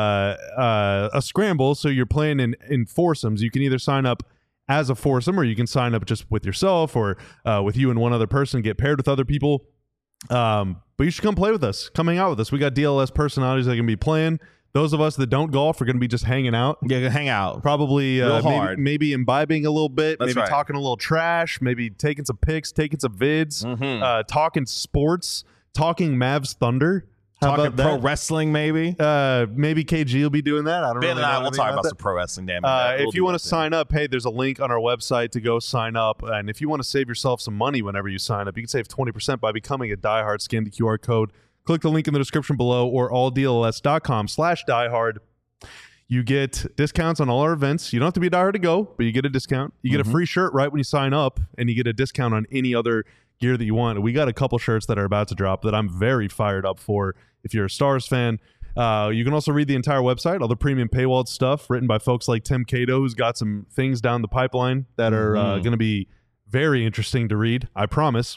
a scramble, so you're playing in foursomes. You can either sign up as a foursome, or you can sign up just with yourself, or with you and one other person, get paired with other people. But you should come play with us. Come hang out with us. We got DLS personalities that can be playing. Those of us that don't golf are going to be just hanging out. Yeah, hang out. Probably Real hard. maybe imbibing a little bit, That's maybe right. talking a little trash, maybe taking some pics, taking some vids, talking sports, talking Mavs Thunder. How Talking about pro that? wrestling, maybe. Maybe KG will be doing that. I don't Ben really and I know will anything talk about that. some pro wrestling. Damn it. If you want to sign up, hey, there's a link on our website to go sign up. And if you want to save yourself some money whenever you sign up, you can save 20% by becoming a diehard. Scan the QR code, click the link in the description below, or alldls.com/diehard. You get discounts on all our events. You don't have to be a diehard to go, but you get a discount. You get a free shirt right when you sign up, and you get a discount on any other gear that you want. We got a couple shirts that are about to drop that I'm very fired up for if you're a Stars fan. You can also read the entire website, all the premium paywalled stuff written by folks like Tim Cato, who's got some things down the pipeline that are going to be very interesting to read, I promise.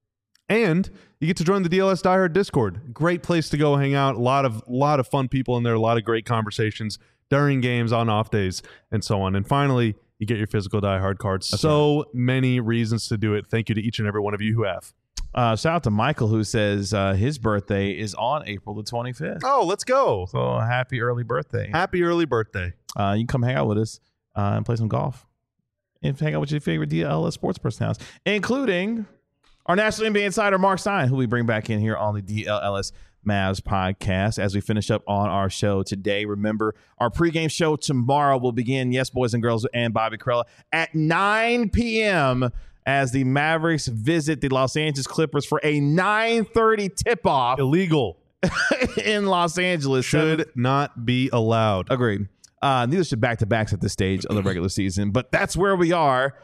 And you get to join the DLS Die Hard Discord. Great place to go hang out. A lot of fun people in there, a lot of great conversations during games, on off days, and so on. And finally, you get your physical Die Hard cards. Many reasons to do it. Thank you to each and every one of you who have. Shout out to Michael, who says his birthday is on April the 25th. Oh, let's go. So happy early birthday. Happy early birthday. You can come hang out with us and play some golf. And hang out with your favorite DLS sports personalities, including our national NBA insider, Mark Stein, who we bring back in here on the DLS Mavs podcast as we finish up on our show today. Remember, our pregame show tomorrow will begin, yes, boys and girls, and Bobby Karalla at 9 p.m. as the Mavericks visit the Los Angeles Clippers for a 9:30 tip-off Illegal. in Los Angeles. Should not be allowed. Agreed. Neither should back-to-backs at this stage of the regular season, but that's where we are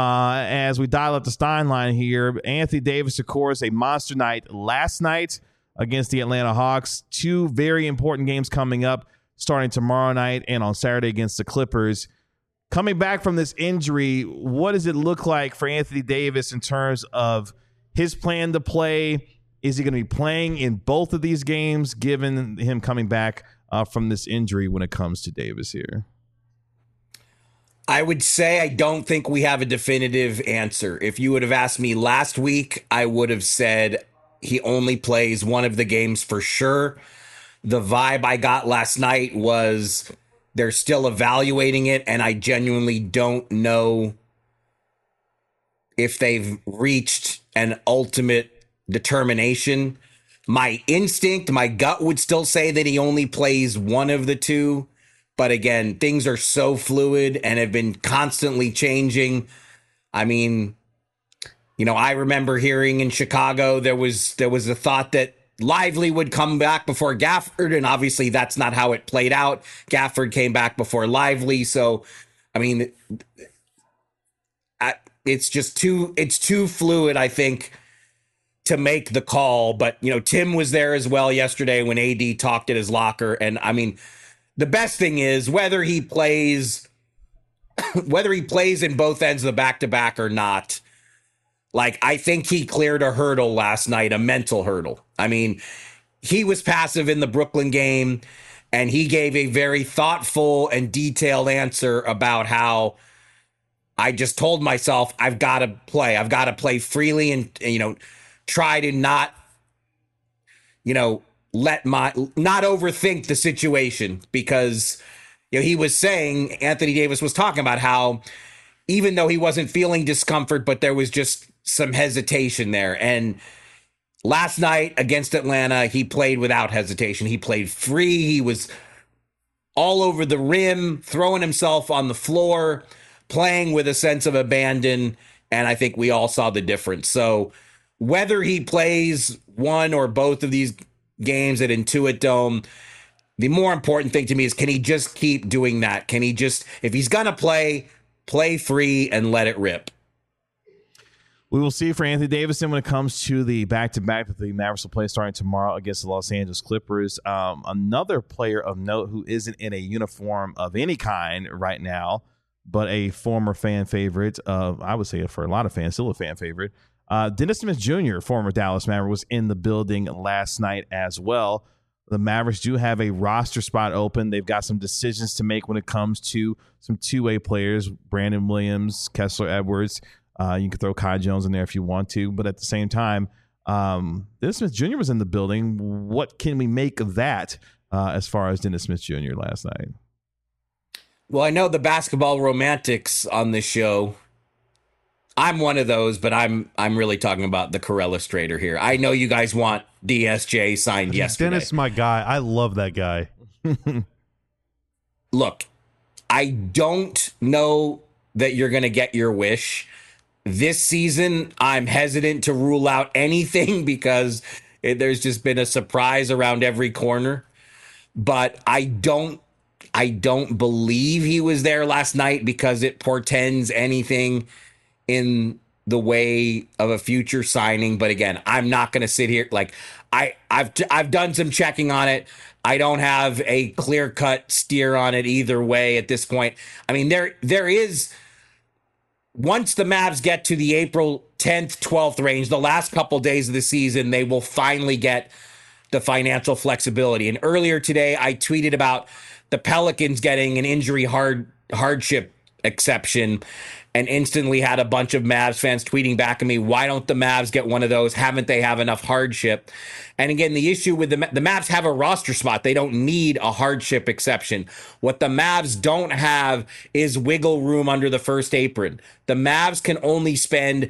as we dial up the Stein line here. Anthony Davis, of course, a monster night last night against the Atlanta Hawks. Two very important games coming up, starting tomorrow night and on Saturday against the Clippers. Coming back from this injury, what does it look like for Anthony Davis in terms of his plan to play? Is he going to be playing in both of these games, given him coming back from this injury when it comes to Davis here? I would say I don't think we have a definitive answer. If you would have asked me last week, I would have said he only plays one of the games for sure. The vibe I got last night was they're still evaluating it, and I genuinely don't know if they've reached an ultimate determination. My instinct, my gut would still say that he only plays one of the two. But again, things are so fluid and have been constantly changing. I mean, I remember hearing in Chicago there was a thought that Lively would come back before Gafford, and obviously that's not how it played out. Gafford came back before Lively, so I mean, it's too fluid, I think, to make the call. But Tim was there as well yesterday when AD talked at his locker, and I mean, the best thing is whether he plays in both ends of the back-to-back or not. Like, I think he cleared a hurdle last night, a mental hurdle. I mean, he was passive in the Brooklyn game, and he gave a very thoughtful and detailed answer about how I just told myself I've got to play. I've got to play freely and try to not, not overthink the situation, because he was saying, Anthony Davis was talking about how even though he wasn't feeling discomfort, but there was just some hesitation there. And last night against Atlanta, he played without hesitation. He played free. He was all over the rim, throwing himself on the floor, playing with a sense of abandon. And I think we all saw the difference. So whether he plays one or both of these games at Intuit Dome, the more important thing to me is, can he just keep doing that? Can he just, if he's going to play free and let it rip? We will see for Anthony Davidson when it comes to the back-to-back that the Mavericks will play starting tomorrow against the Los Angeles Clippers. Another player of note who isn't in a uniform of any kind right now, but a former fan favorite, I would say for a lot of fans, still a fan favorite, Dennis Smith Jr., former Dallas Maverick, was in the building last night as well. The Mavericks do have a roster spot open. They've got some decisions to make when it comes to some two-way players, Brandon Williams, Kessler Edwards. You can throw Kai Jones in there if you want to. But at the same time, Dennis Smith Jr. was in the building. What can we make of that as far as Dennis Smith Jr. last night? Well, I know the basketball romantics on this show. I'm one of those, but I'm really talking about the Corellustrator here. I know you guys want DSJ signed yesterday. Dennis, my guy. I love that guy. Look, I don't know that you're going to get your wish. This season, I'm hesitant to rule out anything because there's just been a surprise around every corner. But I don't believe he was there last night because it portends anything in the way of a future signing. But again, I'm not going to sit here like I've done some checking on it. I don't have a clear-cut steer on it either way at this point. I mean, there is, once the Mavs get to the April 10th, 12th range, the last couple days of the season, they will finally get the financial flexibility. And earlier today, I tweeted about the Pelicans getting an injury hardship exception, and instantly had a bunch of Mavs fans tweeting back at me, why don't the Mavs get one of those? Haven't they have enough hardship? And again, the issue with the Mavs have a roster spot. They don't need a hardship exception. What the Mavs don't have is wiggle room under the first apron. The Mavs can only spend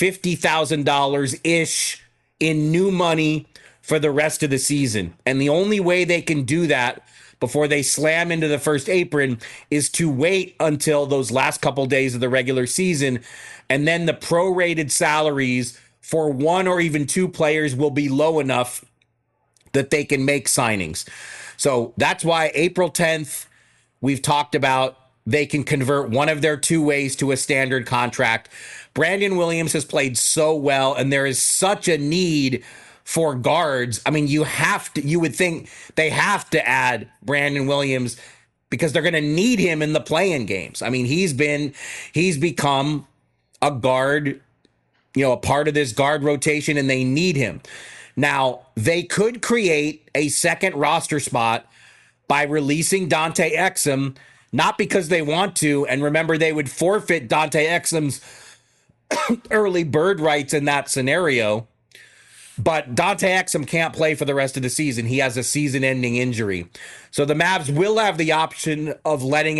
$50,000-ish in new money for the rest of the season. And the only way they can do that before they slam into the first apron is to wait until those last couple days of the regular season. And then the prorated salaries for one or even two players will be low enough that they can make signings. So that's why April 10th, we've talked about, they can convert one of their two ways to a standard contract. Brandon Williams has played so well, and there is such a need for guards. I mean, you would think they have to add Brandon Williams because they're going to need him in the play-in games. I mean, he's become a guard, a part of this guard rotation, and they need him. Now, they could create a second roster spot by releasing Dante Exum, not because they want to, and remember, they would forfeit Dante Exum's early bird rights in that scenario. But Dante Exum can't play for the rest of the season. He has a season-ending injury. So the Mavs will have the option of letting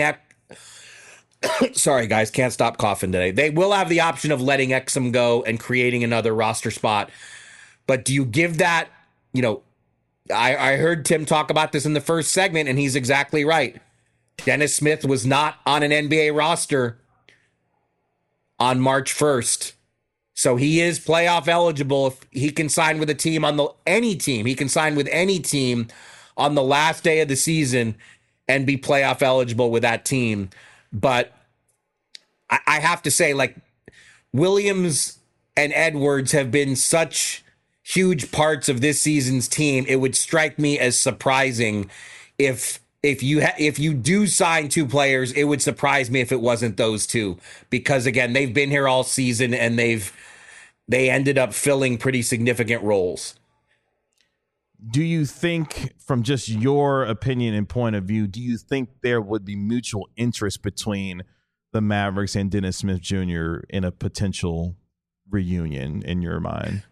sorry, guys, can't stop coughing today. They will have the option of letting Exum go and creating another roster spot. But do you give that, I heard Tim talk about this in the first segment, and he's exactly right. Dennis Smith was not on an NBA roster on March 1st. So he is playoff eligible if he can sign with a team any team. He can sign with any team on the last day of the season and be playoff eligible with that team. But I have to say, Williams and Edwards have been such huge parts of this season's team. It would strike me as surprising if you do sign two players. It would surprise me if it wasn't those two, because again, they've been here all season and they ended up filling pretty significant roles. Do you think, from just your opinion and point of view, do you think there would be mutual interest between the Mavericks and Dennis Smith Jr. in a potential reunion in your mind?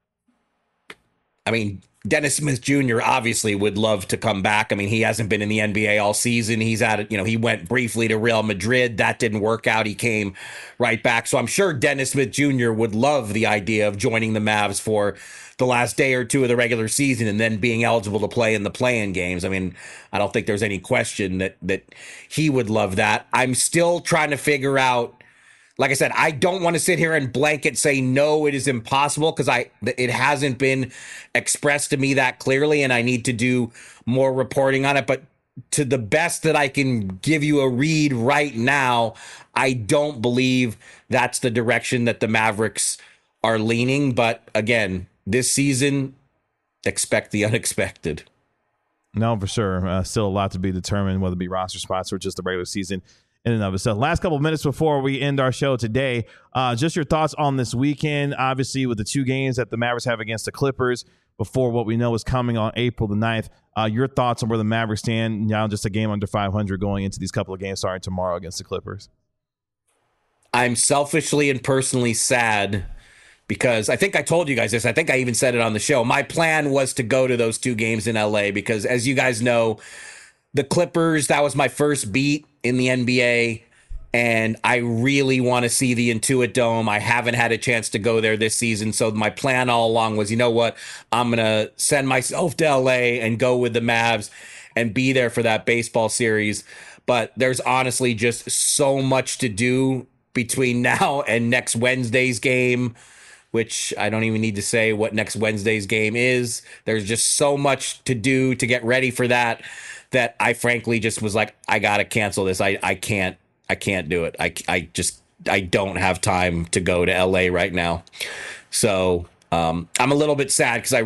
I mean, Dennis Smith Jr. obviously would love to come back. I mean, he hasn't been in the NBA all season. He's at it, he went briefly to Real Madrid. That didn't work out. He came right back. So I'm sure Dennis Smith Jr. would love the idea of joining the Mavs for the last day or two of the regular season and then being eligible to play in the play-in games. I mean, I don't think there's any question that he would love that. I'm still trying to figure out, like I said, I don't want to sit here and blanket say, no, it is impossible, because it hasn't been expressed to me that clearly, and I need to do more reporting on it. But to the best that I can give you a read right now, I don't believe that's the direction that the Mavericks are leaning. But again, this season, expect the unexpected. No, for sure. Still a lot to be determined, whether it be roster spots or just the regular season in and of itself. Last couple of minutes before we end our show today, just your thoughts on this weekend, obviously with the 2 games that the Mavericks have against the Clippers before what we know is coming on April the 9th. Your thoughts on where the Mavericks stand now, just a game under 500 going into these couple of games starting tomorrow against the Clippers. I'm selfishly and personally sad because I think I told you guys this. I think I even said it on the show. My plan was to go to those 2 games in LA because, as you guys know, the Clippers, that was my first beat in the NBA, and I really want to see the Intuit Dome. I haven't had a chance to go there this season, so my plan all along was, you know what, I'm going to send myself to LA and go with the Mavs and be there for that baseball series. But there's honestly just so much to do between now and next Wednesday's game, which I don't even need to say what next Wednesday's game is. There's just so much to do to get ready for that I frankly just was like, I got to cancel this. I can't do it. I don't have time to go to LA right now. So I'm a little bit sad because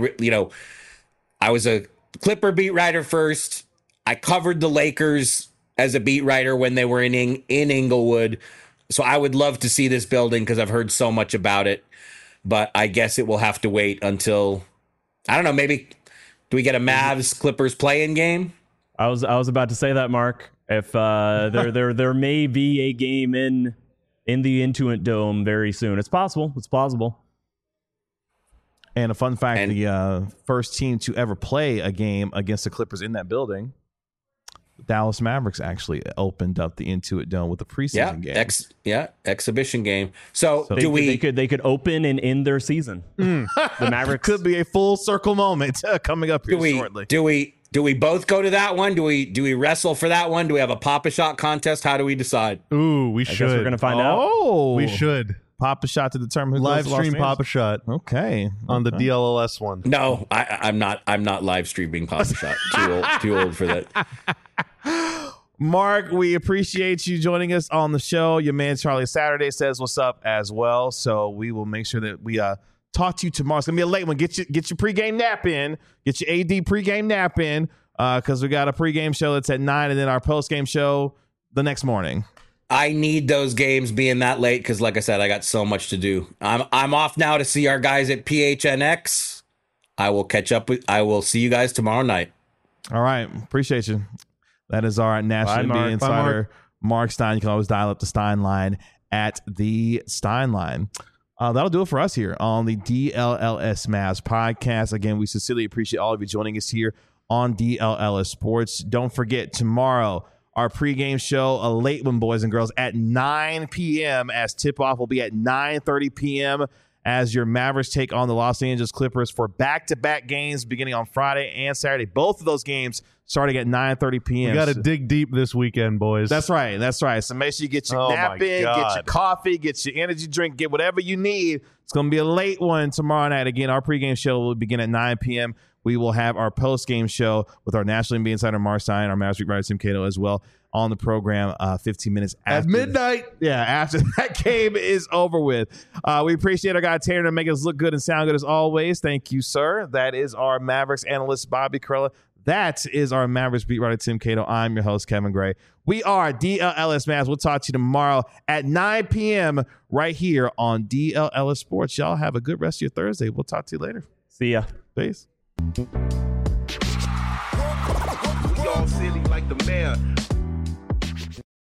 I was a Clipper beat writer first. I covered the Lakers as a beat writer when they were in Inglewood. So I would love to see this building because I've heard so much about it. But I guess it will have to wait until, I don't know, maybe do we get a Mavs Clippers play-in game? I was about to say that, Mark. If there may be a game in the Intuit Dome very soon. It's possible. It's plausible. And a fun fact, the first team to ever play a game against the Clippers in that building, the Dallas Mavericks actually opened up the Intuit Dome with a preseason game. Exhibition game. So they could open and end their season. The Mavericks could be a full circle moment coming up here shortly. Do we both go to that one? Do we wrestle for that one? Do we have a Pop-A-Shot contest? How do we decide? Ooh, we should. I guess we're gonna find out. Oh, we should. Pop-A-Shot to determine who live goes to Los stream Angeles. Pop-A-Shot. Okay. On the DLLS one. No, I'm not live streaming Pop-A-Shot. Too old for that. Mark, we appreciate you joining us on the show. Your man Charlie Saturday says what's up as well. So we will make sure that we talk to you tomorrow. It's gonna be a late one. Get your pregame nap in. Get your AD pregame nap in. Because we got a pregame show that's at 9 and then our postgame show the next morning. I need those games being that late because, like I said, I got so much to do. I'm off now to see our guys at PHNX. I will catch up I will see you guys tomorrow night. All right. Appreciate you. That is our National NBA Insider, Mark Stein. You can always dial up the Stein line at the Stein line. That'll do it for us here on the DLLS Mavs podcast. Again, we sincerely appreciate all of you joining us here on DLLS Sports. Don't forget, tomorrow, our pregame show, a late one, boys and girls, at 9 p.m. as tip-off will be at 9:30 p.m. as your Mavericks take on the Los Angeles Clippers for back-to-back games beginning on Friday and Saturday. Both of those games starting at 9:30 p.m. We got to dig deep this weekend, boys. That's right. So make sure you get your nap in, get your coffee, get your energy drink, get whatever you need. It's going to be a late one tomorrow night. Again, our pregame show will begin at 9 p.m. We will have our post-game show with our National NBA Insider, Mark Stein, our Mavs beat writer, Tim Cato, as well on the program 15 minutes after. At midnight. After that game is over with. We appreciate our guy, Tanner, to make us look good and sound good as always. Thank you, sir. That is our Mavericks analyst, Bobby Karalla. That is our Mavericks beat writer, Tim Cato. I'm your host, Kevin Gray. We are DLLS Mavs. We'll talk to you tomorrow at 9 p.m. right here on DLLS Sports. Y'all have a good rest of your Thursday. We'll talk to you later. See ya. Peace. We all silly like the mayor.